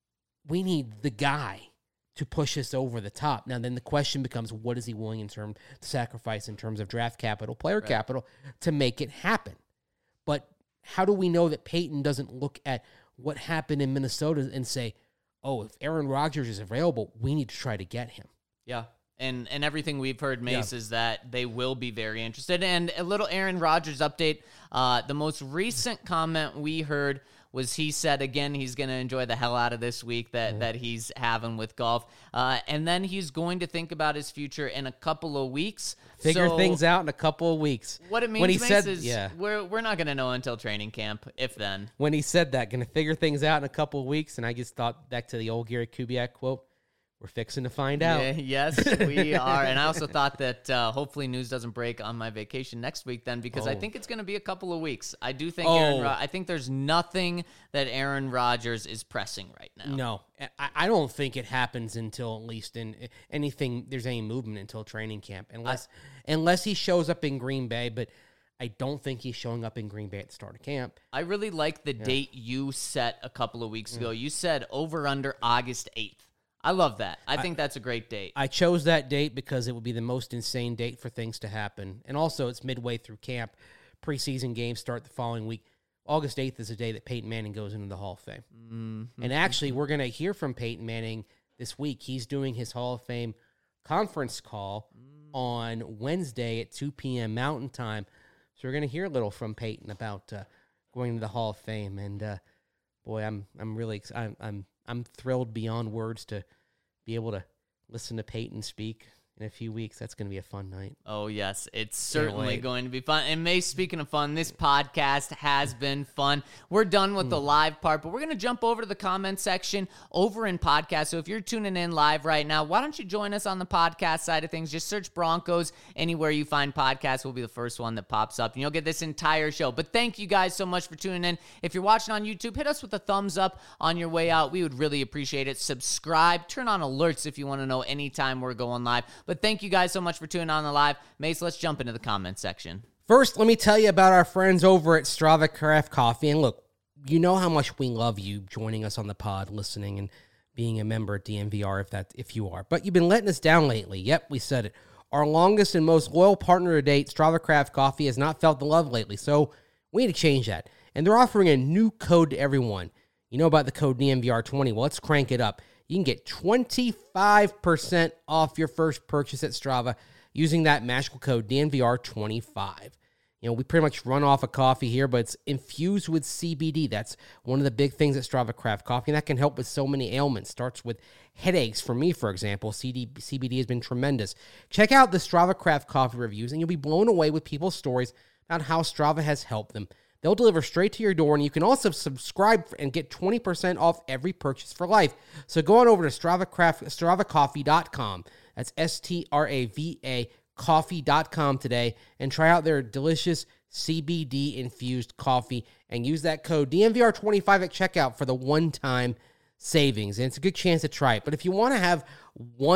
we need the guy to push us over the top? Now, then the question becomes, what is he willing in terms to sacrifice in terms of draft capital, player right. capital, to make it happen? But how do we know that Peyton doesn't look at what happened in Minnesota and say, oh, if Aaron Rodgers is available, we need to try to get him? Yeah. And and everything we've heard, Mace, yeah. is that they will be very interested. And a little Aaron Rodgers update. Uh, the most recent comment we heard was he said, again, he's going to enjoy the hell out of this week that, mm-hmm. that he's having with golf. Uh, and then he's going to think about his future in a couple of weeks. Figure so things out in a couple of weeks. What it means, when he Mace, said, is yeah. we're, we're not going to know until training camp, if then. When he said that, going to figure things out in a couple of weeks, and I just thought back to the old Gary Kubiak quote, we're fixing to find out. Yeah, yes, we are. And I also thought that uh, hopefully news doesn't break on my vacation next week then, because oh. I think it's going to be a couple of weeks. I do think oh. Aaron Ro- I think there's nothing that Aaron Rodgers is pressing right now. No, I, I don't think it happens until at least in anything, there's any movement until training camp, unless I, unless he shows up in Green Bay, but I don't think he's showing up in Green Bay at the start of camp. I really like the yeah. date you set a couple of weeks ago. Mm. You said over under August eighth. I love that. I think I, that's a great date. I chose that date because it would be the most insane date for things to happen. And also, it's midway through camp. Preseason games start the following week. August eighth is the day that Peyton Manning goes into the Hall of Fame. Mm-hmm. And actually, we're going to hear from Peyton Manning this week. He's doing his Hall of Fame conference call mm. on Wednesday at two p.m. Mountain Time. So we're going to hear a little from Peyton about uh, going to the Hall of Fame. And, uh, boy, I'm I'm really I'm, I'm I'm thrilled beyond words to be able to listen to Peyton speak in a few weeks. That's going to be a fun night. Oh, yes. It's certainly going to be fun. And May, speaking of fun, this podcast has been fun. We're done with mm. the live part, but we're going to jump over to the comment section over in podcast. So if you're tuning in live right now, why don't you join us on the podcast side of things? Just search Broncos anywhere you find podcasts. Will be the first one that pops up, and you'll get this entire show. But thank you guys so much for tuning in. If you're watching on YouTube, hit us with a thumbs up on your way out. We would really appreciate it. Subscribe. Turn on alerts if you want to know anytime we're going live. But thank you guys so much for tuning on the live. Mace, let's jump into the comment section. First, let me tell you about our friends over at Strava Craft Coffee. And look, you know how much we love you joining us on the pod, listening, and being a member at D N V R if that if you are. But you've been letting us down lately. Yep, we said it. Our longest and most loyal partner to date, Strava Craft Coffee, has not felt the love lately. So we need to change that. And they're offering a new code to everyone. You know about the code D N V R twenty. Well, let's crank it up. You can get twenty-five percent off your first purchase at Strava using that magical code D N V R twenty-five. You know, we pretty much run off of coffee here, but it's infused with C B D. That's one of the big things at Strava Craft Coffee, and that can help with so many ailments. Starts with headaches. For me, for example, C B D has been tremendous. Check out the Strava Craft Coffee reviews, and you'll be blown away with people's stories about how Strava has helped them. They'll deliver straight to your door, and you can also subscribe and get twenty percent off every purchase for life. So go on over to Strava Craft, Strava Coffee dot com. That's S T R A V A coffee dot com today, and try out their delicious C B D-infused coffee, and use that code D N V R twenty-five at checkout for the one-time savings. And it's a good chance to try it. But if you want to have one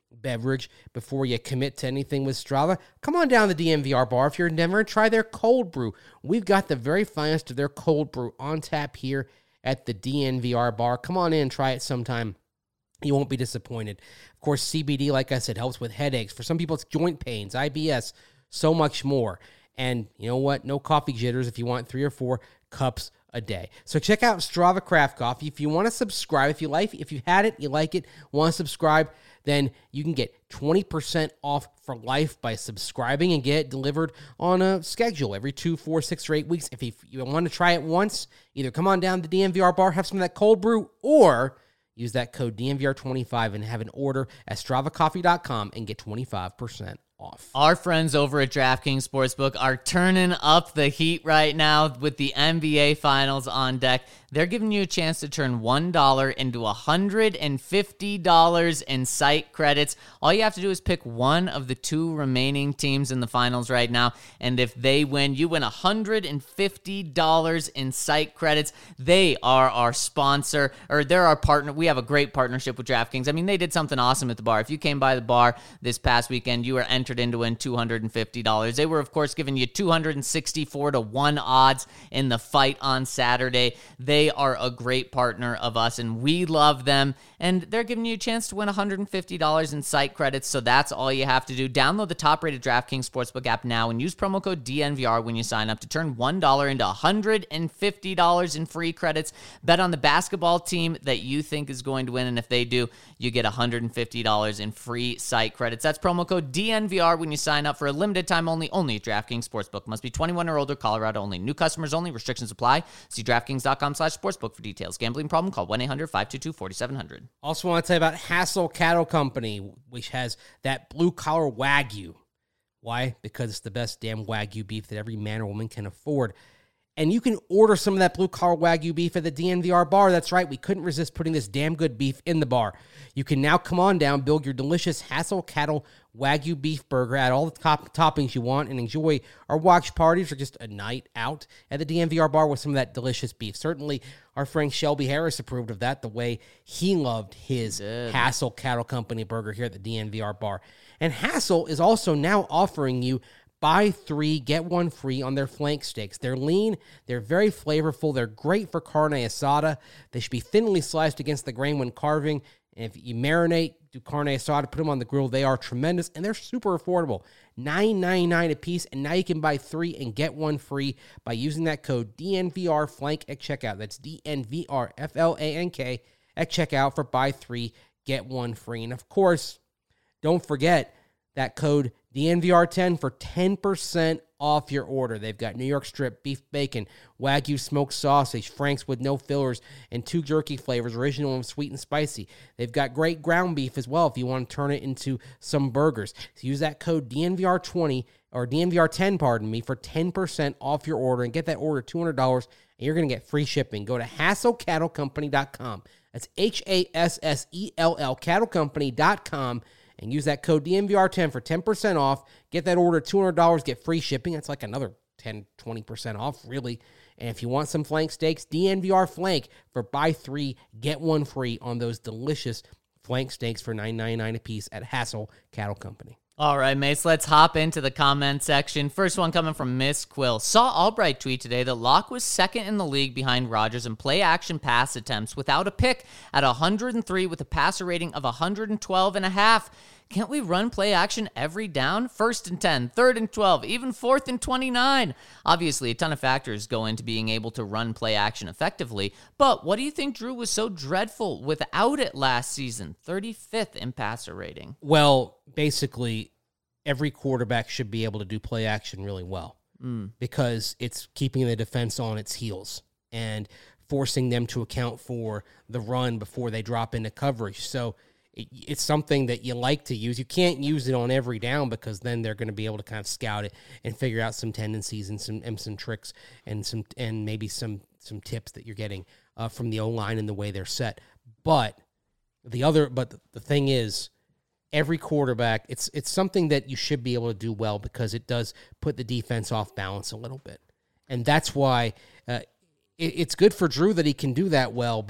beverage before you commit to anything with Strava, come on down to the D N V R bar if you're in Denver and try their cold brew. We've got the very finest of their cold brew on tap here at the D N V R bar. Come on in, try it sometime. You won't be disappointed. Of course, C B D, like I said, helps with headaches. For some people, it's joint pains, I B S, so much more. And you know what? No coffee jitters if you want three or four cups a day. So check out Strava Craft Coffee. If you want to subscribe, if you like, if you had it, you like it, want to subscribe, then you can get twenty percent off for life by subscribing and get it delivered on a schedule every two, four, six, or eight weeks. If you, you want to try it once, either come on down to the D N V R bar, have some of that cold brew, or use that code D N V R twenty-five and have an order at strava coffee dot com and get twenty-five percent off. Our friends over at DraftKings Sportsbook are turning up the heat right now with the N B A Finals on deck. They're giving you a chance to turn one dollar into one hundred fifty dollars in site credits. All you have to do is pick one of the two remaining teams in the finals right now, and if they win, you win one hundred fifty dollars in site credits. They are our sponsor, or they're our partner. We have a great partnership with DraftKings. I mean, they did something awesome at the bar. If you came by the bar this past weekend, you were entered in to win two hundred fifty dollars. They were, of course, giving you two hundred sixty-four to one odds in the fight on Saturday. They They are a great partner of us, and we love them. And they're giving you a chance to win one hundred fifty dollars in site credits, so that's all you have to do. Download the top-rated DraftKings Sportsbook app now and use promo code D N V R when you sign up to turn one dollar into one hundred fifty dollars in free credits. Bet on the basketball team that you think is going to win, and if they do, you get one hundred fifty dollars in free site credits. That's promo code D N V R when you sign up for a limited time only, only at DraftKings Sportsbook. Must be twenty-one or older, Colorado only. New customers only. Restrictions apply. See DraftKings.com slash sportsbook for details. Gambling problem? Call one eight hundred five two two four seven zero zero. Also want to tell you about Hassel Cattle Company, which has that blue-collar Wagyu. Why? Because it's the best damn Wagyu beef that every man or woman can afford. And you can order some of that blue-collar Wagyu beef at the D N V R bar. That's right. We couldn't resist putting this damn good beef in the bar. You can now come on down, build your delicious Hassel Cattle Wagyu beef burger, add all the top toppings you want, and enjoy our watch parties or just a night out at the D N V R bar with some of that delicious beef. Certainly, our friend Shelby Harris approved of that, the way he loved his Hassel Cattle Company burger here at the D N V R bar. And Hassel is also now offering you buy three, get one free on their flank steaks. They're lean, they're very flavorful, they're great for carne asada. They should be thinly sliced against the grain when carving. And if you marinate, do carne asada, put them on the grill, they are tremendous, and they're super affordable. nine ninety-nine a piece, and now you can buy three and get one free by using that code D N V R flank at checkout. That's D N V R F L A N K at checkout for buy three, get one free. And of course, don't forget that code D N V R ten for ten percent off your order. They've got New York strip, beef bacon, Wagyu smoked sausage, Frank's with no fillers, and two jerky flavors, original and sweet and spicy. They've got great ground beef as well if you want to turn it into some burgers. So use that code D N V R twenty, or D N V R ten, pardon me, for ten percent off your order, and get that order two hundred dollars, and you're going to get free shipping. Go to hassel cattle company dot com. That's H A S S E L L, cattle company dot com. And use that code D N V R ten for ten percent off. Get that order, two hundred dollars, get free shipping. That's like another ten, twenty percent off, really. And if you want some flank steaks, D N V R Flank for buy three, get one free on those delicious flank steaks for nine ninety-nine a piece at Hassel Cattle Company. All right, mates, let's hop into the comment section. First one coming from Miss Quill. Saw Albright tweet today that Locke was second in the league behind Rodgers in play-action pass attempts without a pick at one hundred three with a passer rating of one hundred twelve and a half. Can't we run play action every down? First and ten, third and twelve, even fourth and twenty-nine. Obviously, a ton of factors go into being able to run play action effectively, but what do you think Drew was so dreadful without it last season? thirty-fifth in passer rating. Well, basically, every quarterback should be able to do play action really well mm. because it's keeping the defense on its heels and forcing them to account for the run before they drop into coverage. So it's something that you like to use. You can't use it on every down because then they're going to be able to kind of scout it and figure out some tendencies and some and some tricks and some and maybe some some tips that you're getting uh, from the O-line and the way they're set. But the other, but the thing is, every quarterback, it's it's something that you should be able to do well because it does put the defense off balance a little bit, and that's why uh, it, it's good for Drew that he can do that well, but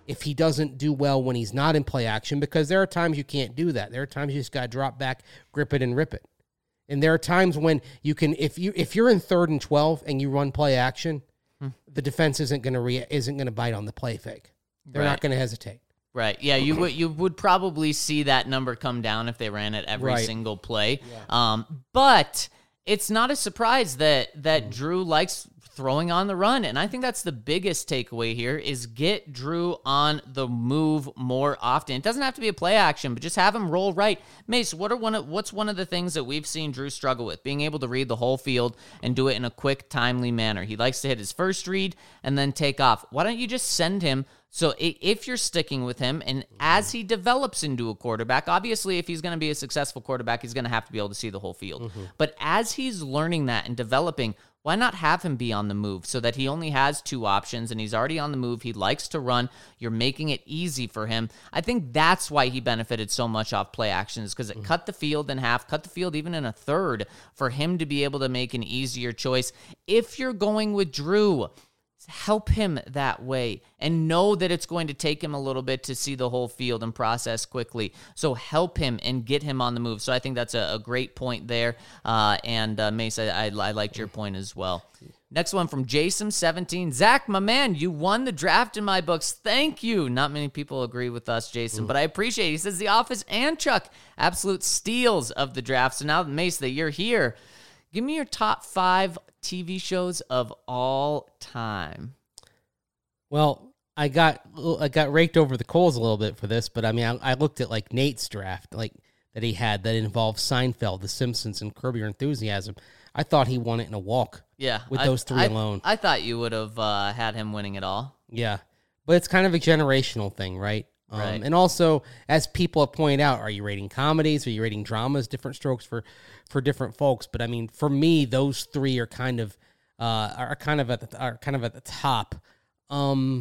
if he doesn't do well when he's not in play action, because there are times you can't do that. There are times you just got to drop back, grip it, and rip it. And there are times when you can, if you if you're in third and twelve and you run play action, hmm. the defense isn't going to re- isn't going to bite on the play fake. They're right. not going to hesitate. Right. Yeah, you would you would probably see that number come down if they ran it every right. single play. Yeah. Um, but it's not a surprise that that mm. Drew likes throwing on the run, and I think that's the biggest takeaway here is get Drew on the move more often. It doesn't have to be a play action, but just have him roll right. Mace, what are one of what's one of the things that we've seen Drew struggle with? Being able to read the whole field and do it in a quick, timely manner. He likes to hit his first read and then take off. Why don't you just send him? So if you're sticking with him, and as he develops into a quarterback, obviously if he's going to be a successful quarterback, he's going to have to be able to see the whole field. Mm-hmm. But as he's learning that and developing, why not have him be on the move so that he only has two options and he's already on the move? He likes to run. You're making it easy for him. I think that's why he benefited so much off play actions, because it mm-hmm. cut the field in half, cut the field even in a third for him to be able to make an easier choice. If you're going with Drew, help him that way and know that it's going to take him a little bit to see the whole field and process quickly. So help him and get him on the move. So I think that's a, a great point there. Uh, and uh, Mace, I, I, I liked your point as well. Next one from Jason seventeen. Zach, my man, you won the draft in my books. Thank you. Not many people agree with us, Jason, mm. but I appreciate it. He says The Office and Chuck, absolute steals of the draft. So now, Mace, that you're here, give me your top five T V shows of all time. Well, I got I got raked over the coals a little bit for this, but I mean, I, I looked at like Nate's draft, like that he had that involved Seinfeld, The Simpsons, and Curb Your Enthusiasm. I thought he won it in a walk. Yeah, with I, those three I, alone. I thought you would have uh, had him winning it all. Yeah, but it's kind of a generational thing, right? Um, right. And also, as people have pointed out, are you rating comedies? Are you rating dramas? Different strokes for, for different folks. But I mean, for me, those three are kind of uh, are kind of at the, are kind of at the top. Um,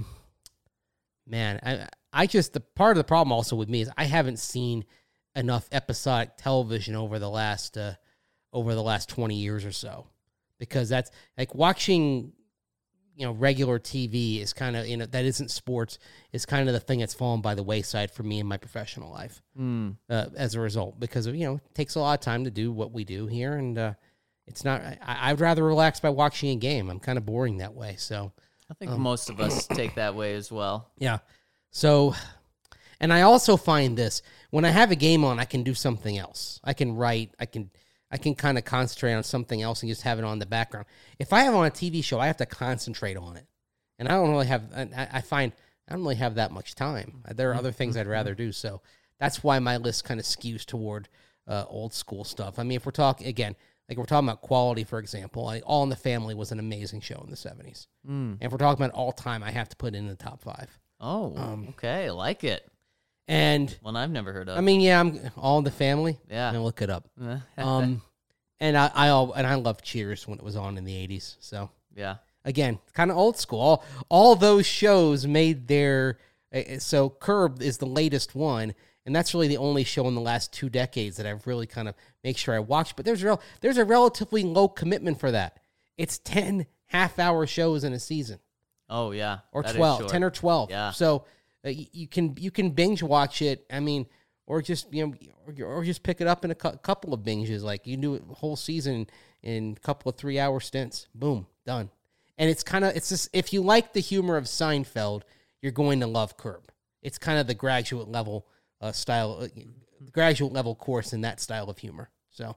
man, I I just the part of the problem also with me is I haven't seen enough episodic television over the last uh, over the last twenty years or so, because that's like watching. You know, regular T V is kind of, you know, that isn't sports, is kind of the thing that's fallen by the wayside for me in my professional life mm. uh, as a result, because of, you know, it takes a lot of time to do what we do here. And uh, it's not, I, I'd rather relax by watching a game. I'm kind of boring that way. So I think um, most of us take that way as well. Yeah. So, and I also find this, when I have a game on, I can do something else. I can write, I can, I can kind of concentrate on something else and just have it on the background. If I have on a T V show, I have to concentrate on it. And I don't really have, I, I find I don't really have that much time. There are other things I'd rather do. So that's why my list kind of skews toward uh, old school stuff. I mean, if we're talking, again, like we're talking about quality, for example, like All in the Family was an amazing show in the seventies. Mm. And if we're talking about all time, I have to put it in the top five. Oh, um, okay. I like it. And one I've never heard of. I mean, yeah, I'm All in the Family. Yeah, I'm gonna look it up. um, and I, I, and I love Cheers when it was on in the eighties. So yeah, again, kind of old school. All, all those shows made their. Uh, so Curb is the latest one, and that's really the only show in the last two decades that I've really kind of make sure I watch. But there's real, there's a relatively low commitment for that. It's ten half-hour shows in a season. Oh yeah, or twelve, ten or twelve. Yeah, so. Uh, you, you can you can binge watch it. I mean, or just you know, or, or just pick it up in a cu- couple of binges. Like you can do it a whole season in a couple of three hour stints. Boom, done. And it's kind of it's just if you like the humor of Seinfeld, you're going to love Curb. It's kind of the graduate level uh, style, uh, graduate level course in that style of humor. So.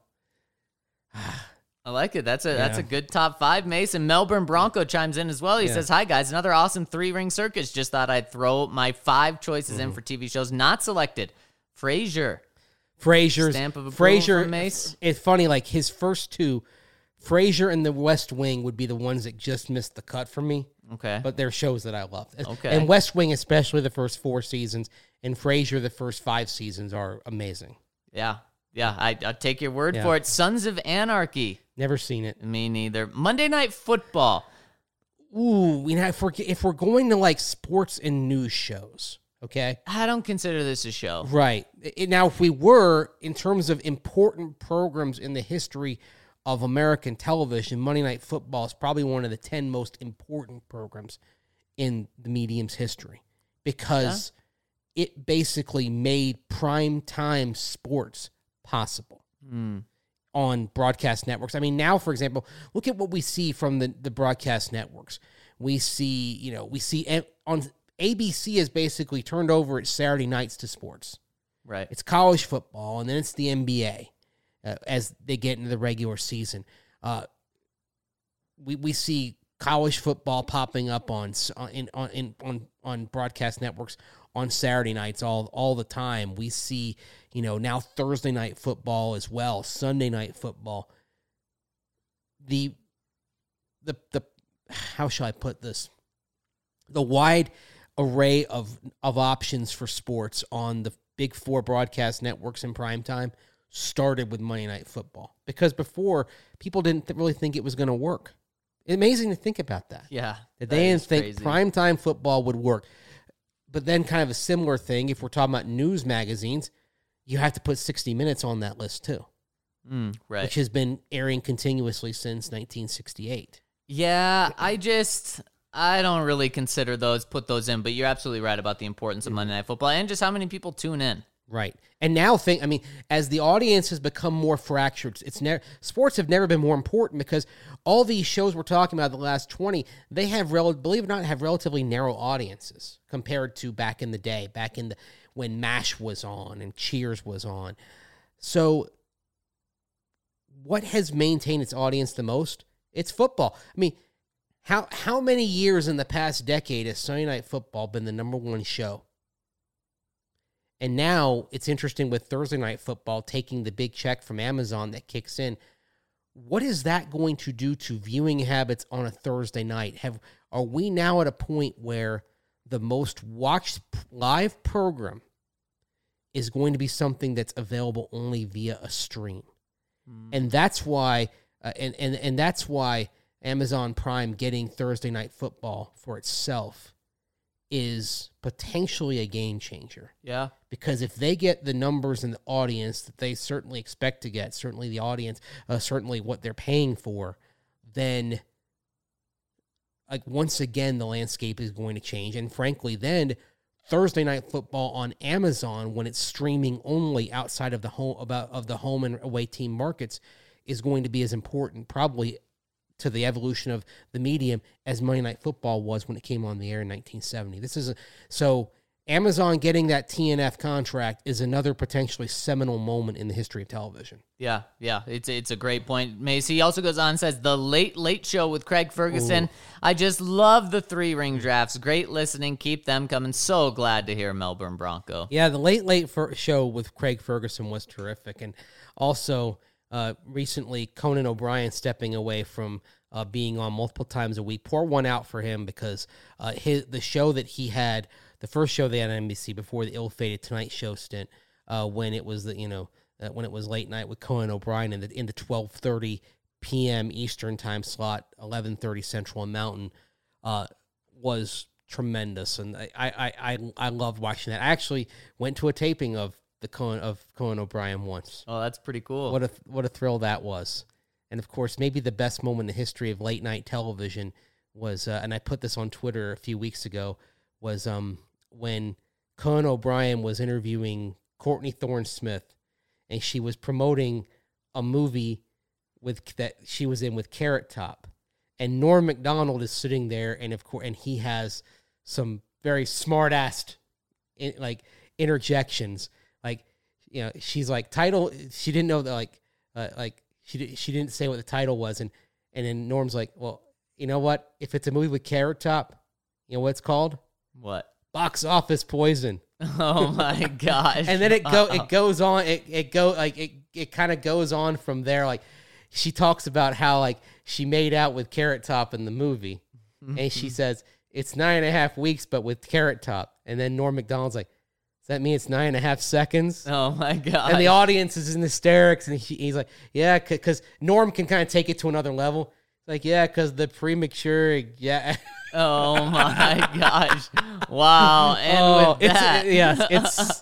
I like it. That's a yeah. that's a good top five, Mace. And Melbourne Bronco chimes in as well. He yeah. says, hi, guys. Another awesome three-ring circus. Just thought I'd throw my five choices mm-hmm. in for T V shows not selected. Frasier. Frasier's. Stamp of approval Frasier, from Mace. It's funny, like his first two, Frasier and The West Wing would be the ones that just missed the cut for me. Okay. But they're shows that I love. Okay. And West Wing, especially the first four seasons, and Frasier, the first five seasons, are amazing. Yeah. Yeah, I, I'll take your word yeah. for it. Sons of Anarchy. Never seen it. Me neither. Monday Night Football. Ooh, you know, if we're, if we're going to like sports and news shows, okay? I don't consider this a show. Right. It, now, if we were, in terms of important programs in the history of American television, Monday Night Football is probably one of the ten most important programs in the medium's history. because yeah. it basically made prime time sports possible Mm. on broadcast networks. I mean, now, for example, look at what we see from the, the broadcast networks. We see, you know, we see on A B C has basically turned over its Saturday nights to sports. Right. It's college football, and then it's the N B A uh, as they get into the regular season. Uh, we we see college football popping up on in on in, on on broadcast networks on Saturday nights all all the time. We see, you know, now Thursday night football as well, Sunday night football. The the the how shall I put this? The wide array of of options for sports on the big four broadcast networks in prime time started with Monday Night Football, because before people didn't th- really think it was going to work. Amazing to think about that. Yeah, that they didn't think primetime football would work. But then kind of a similar thing, if we're talking about news magazines, you have to put sixty minutes on that list too. Mm, right. Which has been airing continuously since nineteen sixty-eight. Yeah, I just, I don't really consider those, put those in, but you're absolutely right about the importance of Monday Night Football and just how many people tune in. Right. And now think, I mean, as the audience has become more fractured, it's never, sports have never been more important, because all these shows we're talking about the last twenty, they have, rel- believe it or not, have relatively narrow audiences compared to back in the day, back in the, when MASH was on and Cheers was on. So what has maintained its audience the most? It's football. I mean, how how many years in the past decade has Sunday Night Football been the number one show? And now it's interesting with Thursday Night Football taking the big check from Amazon that kicks in. What is that going to do to viewing habits on a Thursday night? Have are we now at a point where the most watched live program is going to be something that's available only via a stream? Mm. And that's why, uh, and, and, and that's why Amazon Prime getting Thursday Night Football for itself is potentially a game changer. Yeah. Because if they get the numbers and the audience that they certainly expect to get, certainly the audience, uh, certainly what they're paying for, then like once again, the landscape is going to change. And frankly, then Thursday Night Football on Amazon, when it's streaming only outside of the home about of the home and away team markets, is going to be as important probably to the evolution of the medium as Monday Night Football was when it came on the air in nineteen seventy. This is a, so Amazon getting that T N F contract is another potentially seminal moment in the history of television. Yeah, yeah, it's it's a great point. Macy he also goes on and says, the Late Late Show with Craig Ferguson. Ooh. I just love the three ring drafts. Great listening. Keep them coming. So glad to hear Melbourne Bronco. Yeah, the Late Late Show with Craig Ferguson was terrific. And also uh, recently Conan O'Brien stepping away from uh, being on multiple times a week. Pour one out for him, because uh, his the show that he had, the first show they had on N B C before the ill-fated Tonight Show stint, uh, when it was the you know uh, when it was late night with Conan O'Brien in the in the twelve thirty p.m. Eastern time slot, eleven thirty Central and Mountain, uh, was tremendous, and I I I I loved watching that. I actually went to a taping of the Conan of Conan O'Brien once. Oh, that's pretty cool. What a what a thrill that was. And of course, maybe the best moment in the history of late night television was, uh, and I put this on Twitter a few weeks ago, was um. when Conan O'Brien was interviewing Courtney Thorne-Smith, and she was promoting a movie with that she was in with Carrot Top, and Norm Macdonald is sitting there, and of course, and he has some very smart-assed in, like interjections, like you know, she's like title, she didn't know that like uh, like she she didn't say what the title was, and and then Norm's like, well, you know what? If it's a movie with Carrot Top, you know what it's called? What? Box Office Poison. Oh my gosh. And then it go it goes on it it go like it it kind of goes on from there. Like she talks about how like she made out with Carrot Top in the movie. And she says it's nine and a half weeks but with Carrot Top. And then Norm Macdonald's like, does that mean it's nine and a half seconds? Oh my god. And the audience is in hysterics, and he, he's like, yeah, because Norm can kind of take it to another level. Like, yeah, because the premature, yeah. Oh my gosh! Wow, and oh, with it's, that, yes, it's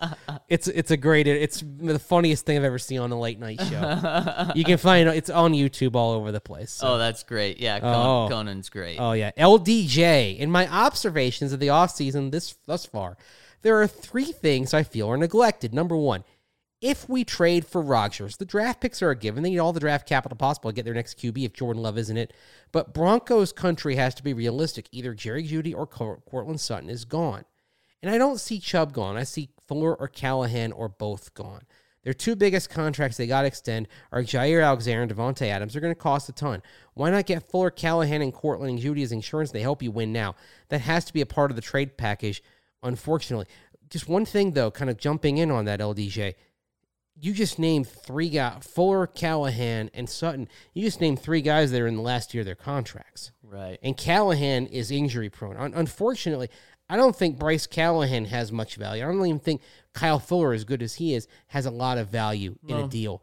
It's it's a great. It's the funniest thing I've ever seen on a late night show. You can find it. It's on YouTube all over the place. So. Oh, that's great. Yeah, Conan, Oh. Conan's great. Oh, yeah. L D J, in my observations of the offseason this thus far, there are three things I feel are neglected. Number one, if we trade for Rodgers, the draft picks are a given. They need all the draft capital possible to get their next Q B if Jordan Love isn't it. But Broncos country has to be realistic. Either Jerry Jeudy or Courtland Sutton is gone. And I don't see Chubb gone. I see Fuller or Callahan or both gone. Their two biggest contracts they got to extend are Jair Alexander and Devontae Adams. They're going to cost a ton. Why not get Fuller, Callahan, and Courtland and Jeudy as insurance? They help you win now. That has to be a part of the trade package, unfortunately. Just one thing, though, kind of jumping in on that, L D J. You just named three guys, Fuller, Callahan, and Sutton. You just named three guys that are in the last year of their contracts. Right. And Callahan is injury prone. Un- unfortunately, I don't think Bryce Callahan has much value. I don't even think Kyle Fuller, as good as he is, has a lot of value in No. a deal.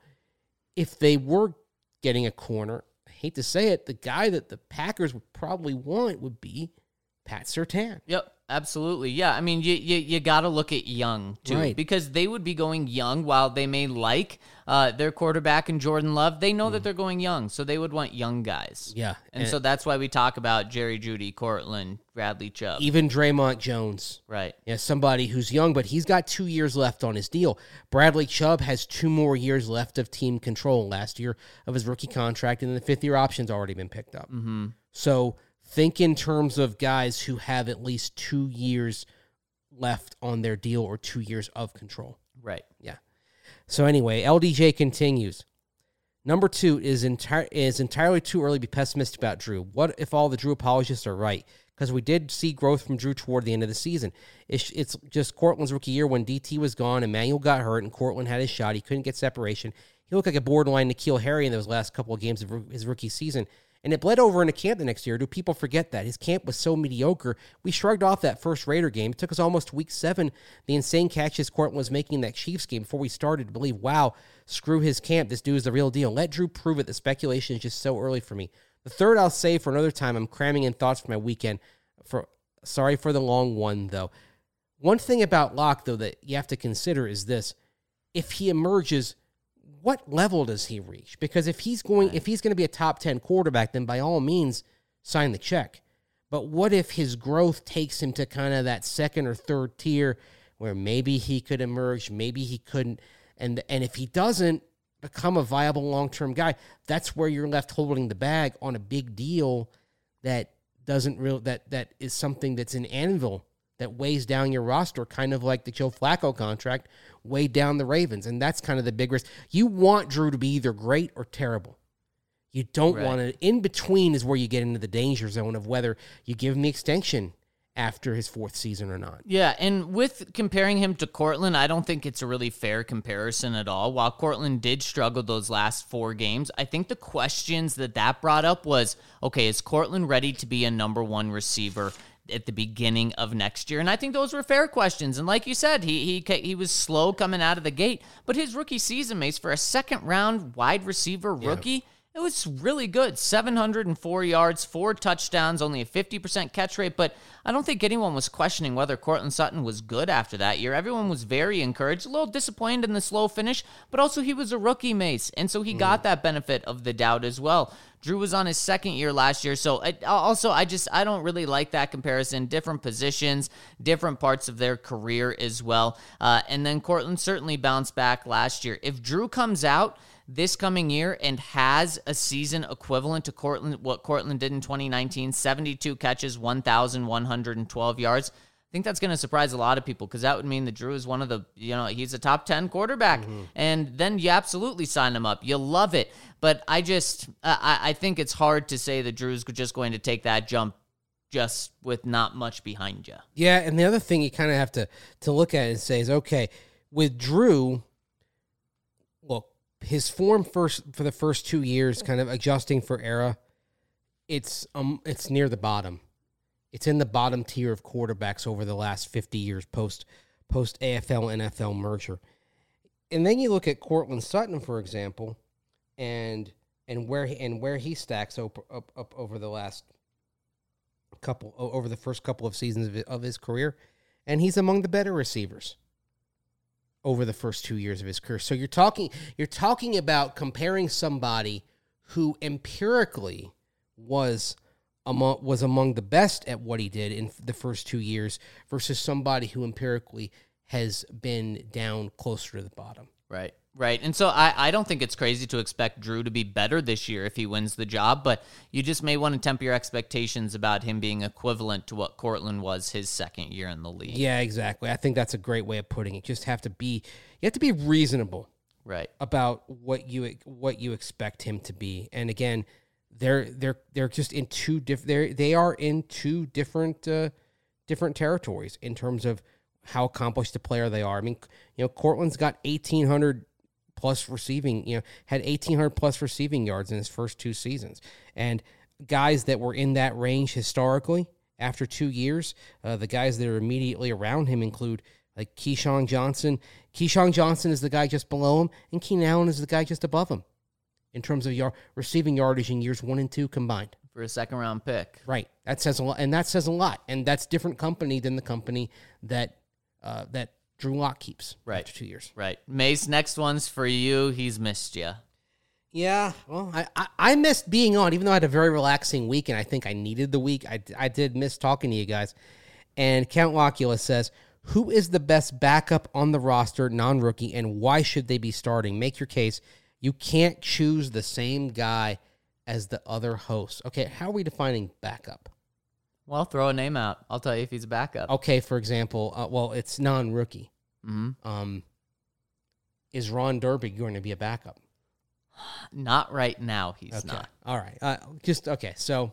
If they were getting a corner, I hate to say it, the guy that the Packers would probably want would be Pat Surtain. Yep, absolutely. Yeah, I mean, you you, you got to look at young, too, Right. because they would be going young while they may like uh, their quarterback and Jordan Love. They know that they're going young, so they would want young guys. Yeah. And, so that's why we talk about Jerry Jeudy, Courtland, Bradley Chubb. even Draymond Jones. Right. Yeah, somebody who's young, but he's got two years left on his deal. Bradley Chubb has two more years left of team control last year of his rookie contract, and the fifth-year option's already been picked up. Mm-hmm. So think in terms of guys who have at least two years left on their deal or two years of control. Right. Yeah. So anyway, L D J continues. Number two is entire is entirely too early to be pessimistic about Drew. What if all the Drew apologists are right? Because we did see growth from Drew toward the end of the season. It's, it's just Courtland's rookie year when D T was gone, Emmanuel got hurt, and Courtland had his shot. He couldn't get separation. He looked like a borderline N'Keal Harry in those last couple of games of his rookie season. And it bled over into camp the next year. Do people forget that? His camp was so mediocre. We shrugged off that first Raider game. It took us almost to week seven, the insane catches Courtland was making in that Chiefs game before we started to believe, wow, screw his camp. This dude is the real deal. Let Drew prove it. The speculation is just so early for me. The third I'll say for another time. I'm cramming in thoughts for my weekend. For Sorry for the long one, though. One thing about Locke, though, that you have to consider is this. If he emerges, what level does he reach? Because if he's going, if he's going to be a top ten quarterback, then by all means, sign the check. But what if his growth takes him to kind of that second or third tier where maybe he could emerge, maybe he couldn't, and and if he doesn't become a viable long-term guy, that's where you're left holding the bag on a big deal that doesn't real that that is something that's an anvil that weighs down your roster, kind of like the Joe Flacco contract weighed down the Ravens. And that's kind of the big risk. You want Drew to be either great or terrible. You don't Right. want to. In between is where you get into the danger zone of whether you give him the extension after his fourth season or not. Yeah, and with comparing him to Courtland, I don't think it's a really fair comparison at all. While Courtland did struggle those last four games, I think the questions that that brought up was, okay, is Courtland ready to be a number one receiver at the beginning of next year? And I think those were fair questions. And like you said, he he he was slow coming out of the gate, but his rookie season, Mace, for a second round wide receiver rookie, it was really good. seven hundred four yards, four touchdowns, only a fifty percent catch rate. But I don't think anyone was questioning whether Courtland Sutton was good after that year. Everyone was very encouraged, a little disappointed in the slow finish, but also he was a rookie, Mace. And so he mm. got that benefit of the doubt as well. Drew was on his second year last year. So I, also, I just, I don't really like that comparison. Different positions, different parts of their career as well. Uh, and then Courtland certainly bounced back last year. If Drew comes out this coming year and has a season equivalent to Courtland, what Courtland did in twenty nineteen, seventy-two catches, one thousand one hundred twelve yards, I think that's going to surprise a lot of people because that would mean that Drew is one of the, you know, he's a top ten quarterback. Mm-hmm. And then you absolutely sign him up. You love it. But I just, I, I think it's hard to say that Drew's just going to take that jump just with not much behind you. Yeah, and the other thing you kind of have to, to look at and say is, okay, with Drew, look, his form first for the first two years, kind of adjusting for era, it's um it's near the bottom. It's in the bottom tier of quarterbacks over the last fifty years post post A F L N F L merger. And then you look at Courtland Sutton, for example, and and where he, and where he stacks up, up up over the last couple over the first couple of seasons of his, of his career, and he's among the better receivers over the first two years of his career. So you're talking you're talking about comparing somebody who empirically was among was among the best at what he did in the first two years versus somebody who empirically has been down closer to the bottom. Right, right. And so I, I don't think it's crazy to expect Drew to be better this year if he wins the job, but you just may want to temper your expectations about him being equivalent to what Courtland was his second year in the league. Yeah, exactly. I think that's a great way of putting it. Just have to be you have to be reasonable. Right. About what you what you expect him to be. And again, they're they're they're just in two different they they are in two different uh, different territories in terms of how accomplished a player they are. I mean, you know, Courtland's got eighteen hundred plus receiving, you know, had eighteen hundred plus receiving yards in his first two seasons. And guys that were in that range historically after two years, uh, the guys that are immediately around him include like Keyshawn Johnson. Keyshawn Johnson is the guy just below him, and Keenan Allen is the guy just above him in terms of yard, receiving yardage in years one and two combined. For a second-round pick. Right. That says a lot, and that says a lot. And that's different company than the company that uh, that Drew Lock keeps right. after two years. Right. Mace, next one's for you. He's missed you. Yeah, well, I, I, I missed being on, even though I had a very relaxing week, and I think I needed the week. I, I did miss talking to you guys. And Count Locula says, who is the best backup on the roster, non-rookie, and why should they be starting? Make your case. You can't choose the same guy as the other host. Okay, how are we defining backup? Well, throw a name out. I'll tell you if he's a backup. Okay, for example, uh, well, it's non-rookie. Mm-hmm. Um, is Ron Derby going to be a backup? Not right now, he's okay. not. All right. Uh, just, okay, so...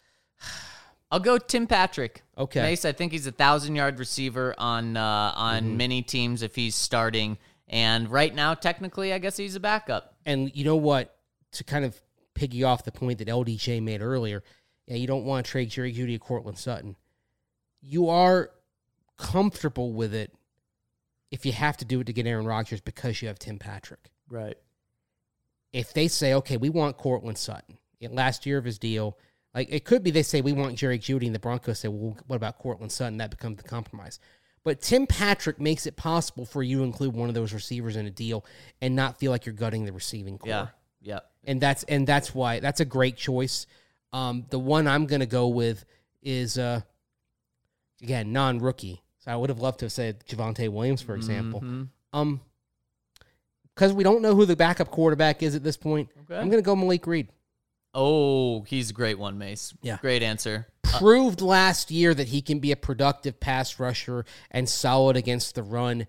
I'll go Tim Patrick. Okay. Mace, I think he's a thousand-yard receiver on uh, on Mm-hmm. many teams if he's starting. And right now, technically, I guess he's a backup. And you know what? To kind of piggy off the point that L D J made earlier, yeah, you don't want to trade Jerry Jeudy or Courtland Sutton. You are comfortable with it if you have to do it to get Aaron Rodgers because you have Tim Patrick. Right. If they say, okay, we want Courtland Sutton, last year of his deal, like it could be they say we want Jerry Jeudy and the Broncos say, well, what about Courtland Sutton? That becomes the compromise. But Tim Patrick makes it possible for you to include one of those receivers in a deal and not feel like you're gutting the receiving core. Yeah. Yeah. And that's and that's why that's a great choice. Um, the one I'm going to go with is uh, again non-rookie. So I would have loved to have said Javonte Williams, for example. Mm-hmm. Um, because we don't know who the backup quarterback is at this point. Okay. I'm going to go Malik Reed. Oh, he's a great one, Mace. Yeah. Great answer. Proved last year that he can be a productive pass rusher and solid against the run.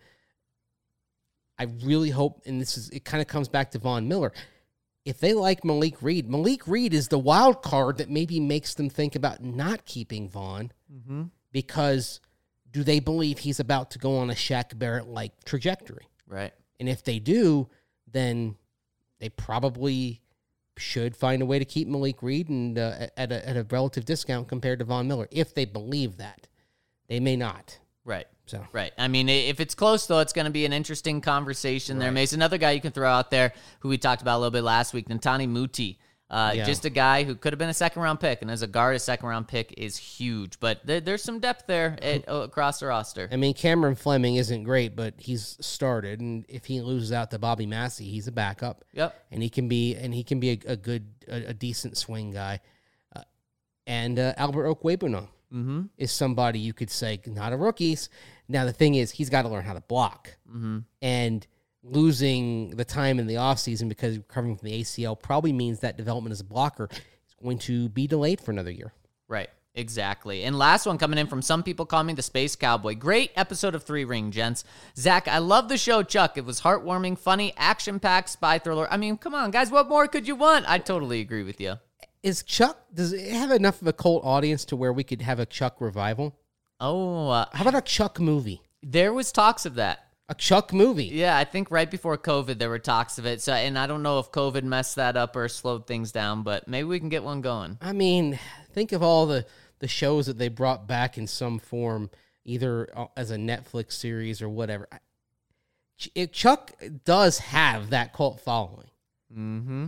I really hope, and this is it kind of comes back to Von Miller. If they like Malik Reed, Malik Reed is the wild card that maybe makes them think about not keeping Von Mm-hmm. because do they believe he's about to go on a Shaq Barrett-like trajectory? Right. And if they do, then they probably should find a way to keep Malik Reed and uh, at, a, at a relative discount compared to Von Miller. If they believe that, they may not. Right. So Right. I mean, if it's close, though, it's going to be an interesting conversation there, Right. Mace. Another guy you can throw out there who we talked about a little bit last week, Ntani Muti. Uh, Yeah. Just a guy who could have been a second-round pick, and as a guard, a second-round pick is huge. But there, there's some depth there at, across the roster. I mean, Cameron Fleming isn't great, but he's started, and if he loses out to Bobby Massey, he's a backup. Yep. And he can be and he can be a, a good, a, a decent swing guy. Uh, and uh, Albert Okwebunam Mm-hmm. is somebody you could say not a rookies. Now the thing is, he's got to learn how to block, Mm-hmm. and losing the time in the offseason because he's recovering from the A C L probably means that development as a blocker is going to be delayed for another year. Right. Exactly. And last one coming in from some people call me the Space Cowboy. Great episode of Three Ring, gents. Zach, I love the show, Chuck. It was heartwarming, funny, action-packed, spy thriller. I mean, come on, guys. What more could you want? I totally agree with you. Is Chuck, does it have enough of a cult audience to where we could have a Chuck revival? Oh, uh, How about a Chuck movie? there was talks of that. A Chuck movie? Yeah, I think right before COVID there were talks of it. So, and I don't know if COVID messed that up or slowed things down, but maybe we can get one going. I mean, think of all the, the shows that they brought back in some form, either as a Netflix series or whatever. Ch- If Chuck does have that cult following. Mm-hmm. Wow.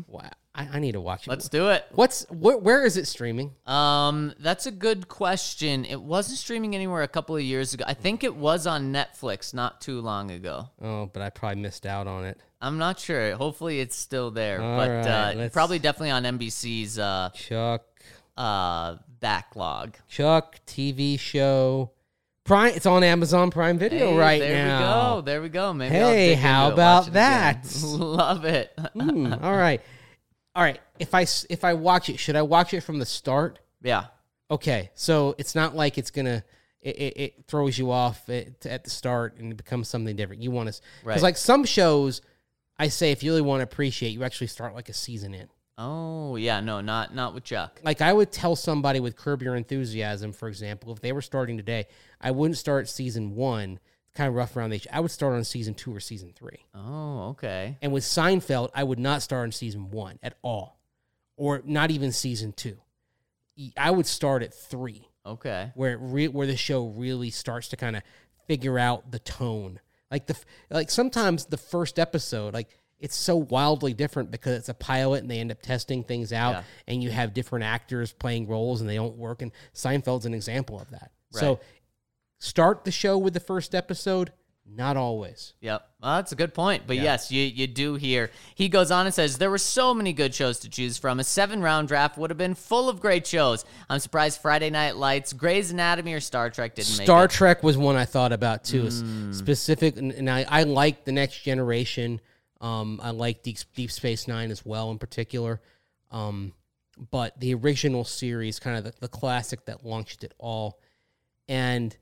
I, I need to watch it. Let's do it. What's wh- where is it streaming? Um, that's a good question. It wasn't streaming anywhere a couple of years ago. I think it was on Netflix not too long ago. Oh, but I probably missed out on it. I'm not sure. Hopefully it's still there, All but right, uh, let's- probably definitely on N B C's uh, Chuck, uh, backlog. Chuck T V show. Prime. It's on Amazon Prime Video Hey, right there now. we go. There we go. Maybe I'll Hey, dig how into it, about watch it again. that? Love it. Mm, all right, all right. If I s- if I watch it, should I watch it from the start? Yeah. Okay, so it's not like it's gonna it, it, it throws you off at, at the start and it becomes something different. You want to because Right. like some shows, I say if you really want to appreciate, you actually start like a season in. Oh yeah. No, not not with Chuck. Like I would tell somebody with Curb Your Enthusiasm, for example, if they were starting today, I wouldn't start season one. It's kind of rough around the age. I would start on season two or season three. Oh, okay. And with Seinfeld, I would not start on season one at all, or not even season two. I would start at three, Okay. where it re- where the show really starts to kind of figure out the tone. Like the f- like sometimes the first episode, like it's so wildly different because it's a pilot and they end up testing things out, Yeah. and you have different actors playing roles and they don't work. And Seinfeld's an example of that. So Right. start the show with the first episode. Not always. Yep. Well, that's a good point. But Yeah. yes, you, you do hear. He goes on and says, there were so many good shows to choose from. A seven-round draft would have been full of great shows. I'm surprised Friday Night Lights, Grey's Anatomy, or Star Trek didn't make Star it. Trek was one I thought about too. It's Mm. Specific, and, and I, I like The Next Generation. Um, I like Deep, Deep Space Nine as well, in particular. Um, but the original series, kind of the, the classic that launched it all, and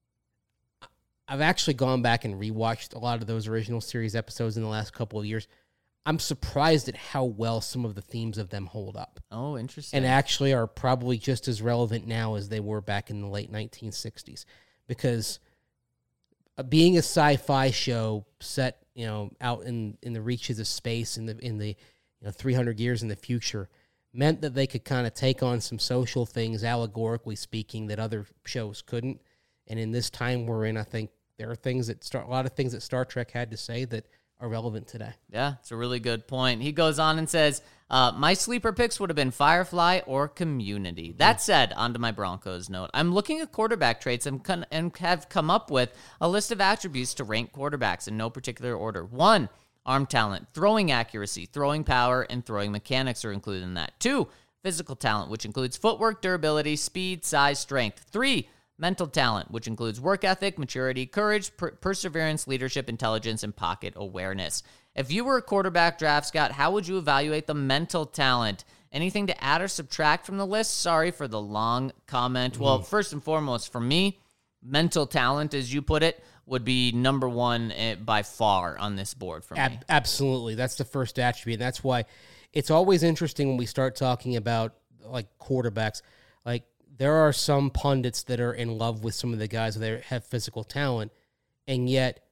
I've actually gone back and rewatched a lot of those original series episodes in the last couple of years. I'm surprised at how well some of the themes of them hold up, Oh, interesting. and actually are probably just as relevant now as they were back in the late nineteen sixties, because uh, being a sci-fi show set, you know, out in, in the reaches of space in the in the you know three hundred years in the future, meant that they could kind of take on some social things, allegorically speaking, that other shows couldn't. And in this time we're in, I think there are things that Star, a lot of things that Star Trek had to say that are relevant today. Yeah, it's a really good point. He goes on and says, uh, my sleeper picks would have been Firefly or Community. That said, onto my Broncos note, I'm looking at quarterback traits and, con- and have come up with a list of attributes to rank quarterbacks in no particular order. One, arm talent, throwing accuracy, throwing power, and throwing mechanics are included in that. Two, physical talent, which includes footwork, durability, speed, size, strength. Three, mental talent, which includes work ethic, maturity, courage, per- perseverance, leadership, intelligence, and pocket awareness. If you were a quarterback draft, Scott, how would you evaluate the mental talent? Anything to add or subtract from the list? Sorry for the long comment. Mm. Well, first and foremost, for me, mental talent, as you put it, would be number one uh, by far on this board for me. Ab- absolutely. That's the first attribute. And that's why it's always interesting when we start talking about like quarterbacks. Like there are some pundits that are in love with some of the guys that have physical talent, and yet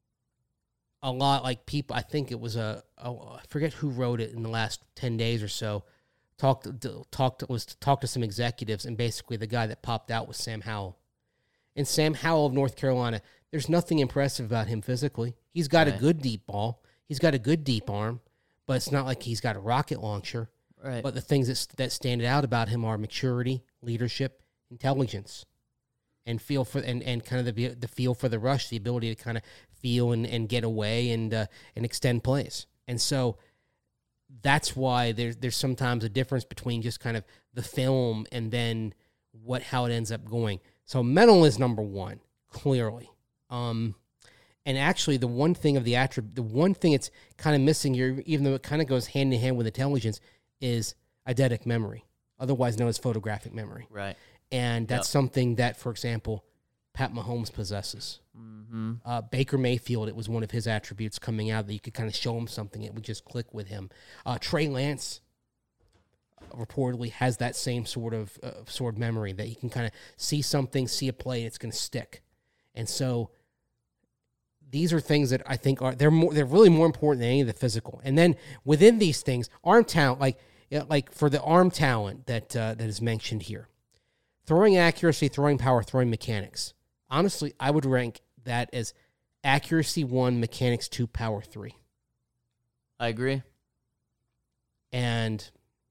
a lot like people, I think it was a, a I forget who wrote it in the last ten days or so, talked talked was to talk to some executives, and basically the guy that popped out was Sam Howell. And Sam Howell of North Carolina, there's nothing impressive about him physically. He's got Right. a good deep ball. He's got a good deep arm, but it's not like he's got a rocket launcher. Right. But the things that, that stand out about him are maturity, leadership, intelligence, and feel for and, and kind of the the feel for the rush, the ability to kind of feel and, and get away and uh, and extend plays. And so that's why there's there's sometimes a difference between just kind of the film and then what how it ends up going. So mental is number one, clearly. Um, and actually, the one thing of the attribute, the one thing it's kind of missing here, even though it kind of goes hand in hand with intelligence, is eidetic memory, otherwise known as photographic memory. Right. And that's Yep. something that, for example, Pat Mahomes possesses. Mm-hmm. Uh, Baker Mayfield, it was one of his attributes coming out that you could kind of show him something. It would just click with him. Uh, Trey Lance reportedly has that same sort of uh, sort of memory that you can kind of see something, see a play, and it's going to stick. And so these are things that I think are they're more they're really more important than any of the physical. And then within these things, arm talent, like you know, like for the arm talent that uh, that is mentioned here, throwing accuracy, throwing power, throwing mechanics. Honestly, I would rank that as accuracy one, mechanics two, power three. I agree. And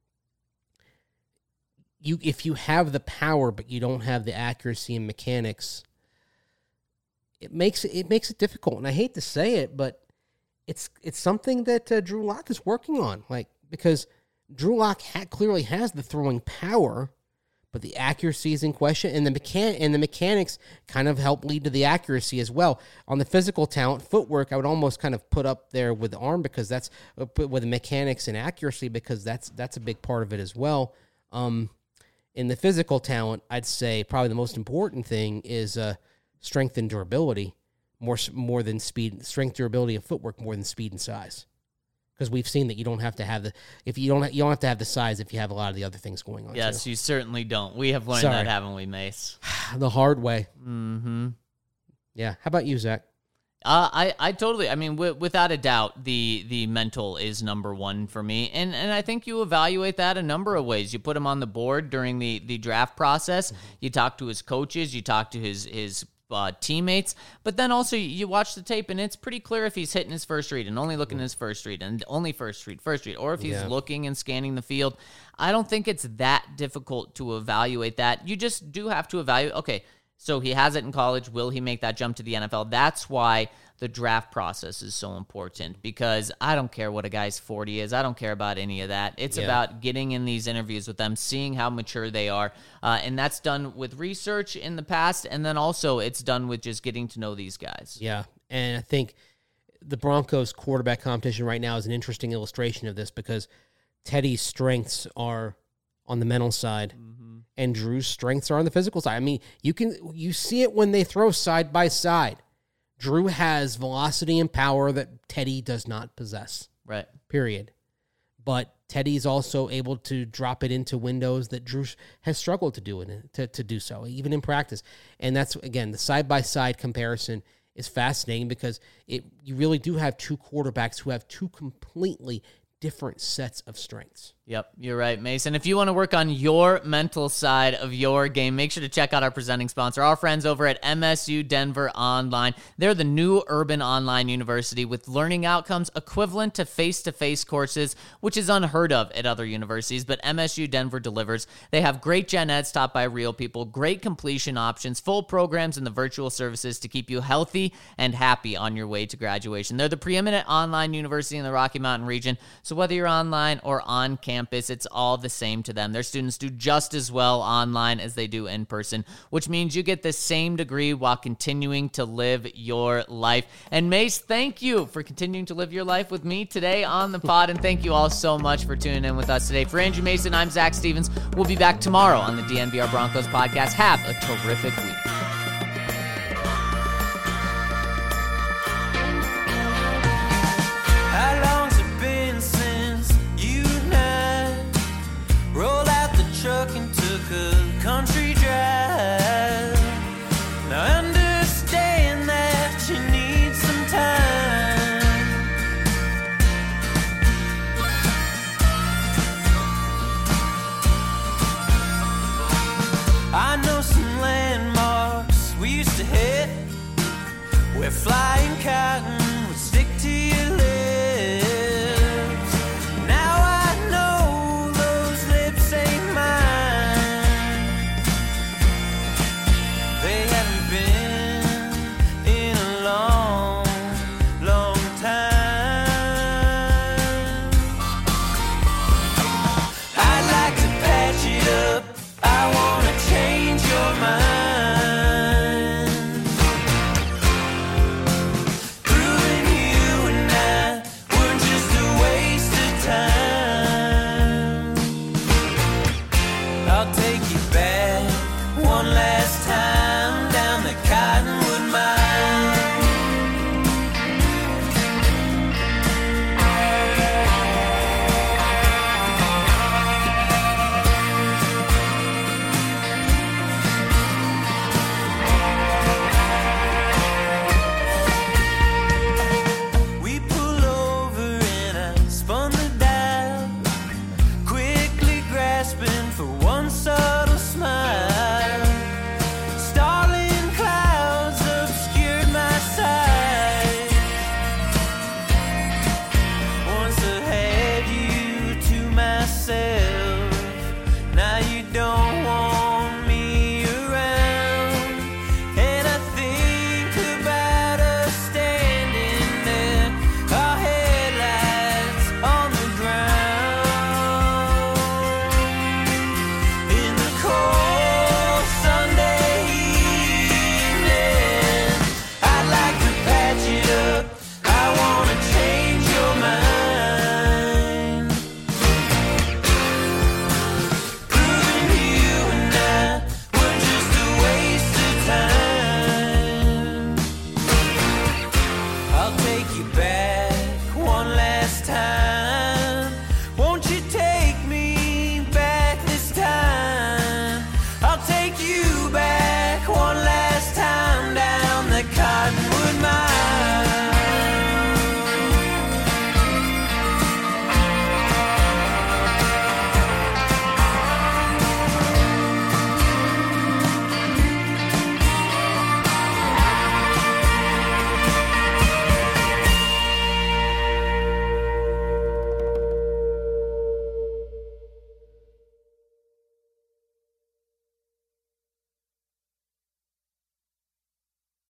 you, if you have the power, but you don't have the accuracy and mechanics, it makes it, it makes it difficult. And I hate to say it, but it's it's something that uh, Drew Lock is working on. Like, because Drew Lock ha- clearly has the throwing power, but the accuracy is in question, and the mechan- and the mechanics kind of help lead to the accuracy as well. On the physical talent, footwork, I would almost kind of put up there with the arm, because that's uh, put with the mechanics and accuracy, because that's that's a big part of it as well. Um, in the physical talent, I'd say probably the most important thing is uh, strength and durability, more more than speed. Strength, durability, and footwork more than speed and size. Because we've seen that you don't have to have the if you don't you don't have to have the size if you have a lot of the other things going on. Yes, too. you certainly don't. We have learned Sorry. that, haven't we, Mace? The hard way. Mm-hmm. Yeah. How about you, Zach? Uh, I, I totally, I mean, w- without a doubt, the the mental is number one for me. And and I think you evaluate that a number of ways. You put him on the board during the, the draft process. Mm-hmm. You talk to his coaches. You talk to his his uh, teammates. But then also you watch the tape, and it's pretty clear if he's hitting his first read and only looking at his first read and only first read, first read, or if he's Yeah. looking and scanning the field. I don't think it's that difficult to evaluate that. You just do have to evaluate, okay, so he has it in college. Will he make that jump to the N F L? That's why the draft process is so important, because I don't care what a guy's forty is. I don't care about any of that. It's Yeah. about getting in these interviews with them, seeing how mature they are. Uh, and that's done with research in the past. And then also it's done with just getting to know these guys. Yeah. And I think the Broncos quarterback competition right now is an interesting illustration of this, because Teddy's strengths are on the mental side. Mm-hmm. And Drew's strengths are on the physical side. I mean, you can you see it when they throw side by side. Drew has velocity and power that Teddy does not possess. Right. Period. But Teddy's also able to drop it into windows that Drew has struggled to do it to, to do so, even in practice. And that's, again, the side by side comparison is fascinating, because it you really do have two quarterbacks who have two completely different sets of strengths. Yep, you're right, Mason. If you want to work on your mental side of your game, make sure to check out our presenting sponsor, our friends over at M S U Denver Online. They're the new urban online university with learning outcomes equivalent to face-to-face courses, which is unheard of at other universities, but M S U Denver delivers. They have great gen eds taught by real people, great completion options, full programs, and the virtual services to keep you healthy and happy on your way to graduation. They're the preeminent online university in the Rocky Mountain region, so whether you're online or on campus, Campus, it's all the same to them. Their students do just as well online as they do in person, which means you get the same degree while continuing to live your life. And Mace, thank you for continuing to live your life with me today on the pod, and thank you all so much for tuning in with us today. For Andrew Mason, I'm Zach Stevens. We'll be back tomorrow on the D N V R Broncos podcast. Have a terrific week.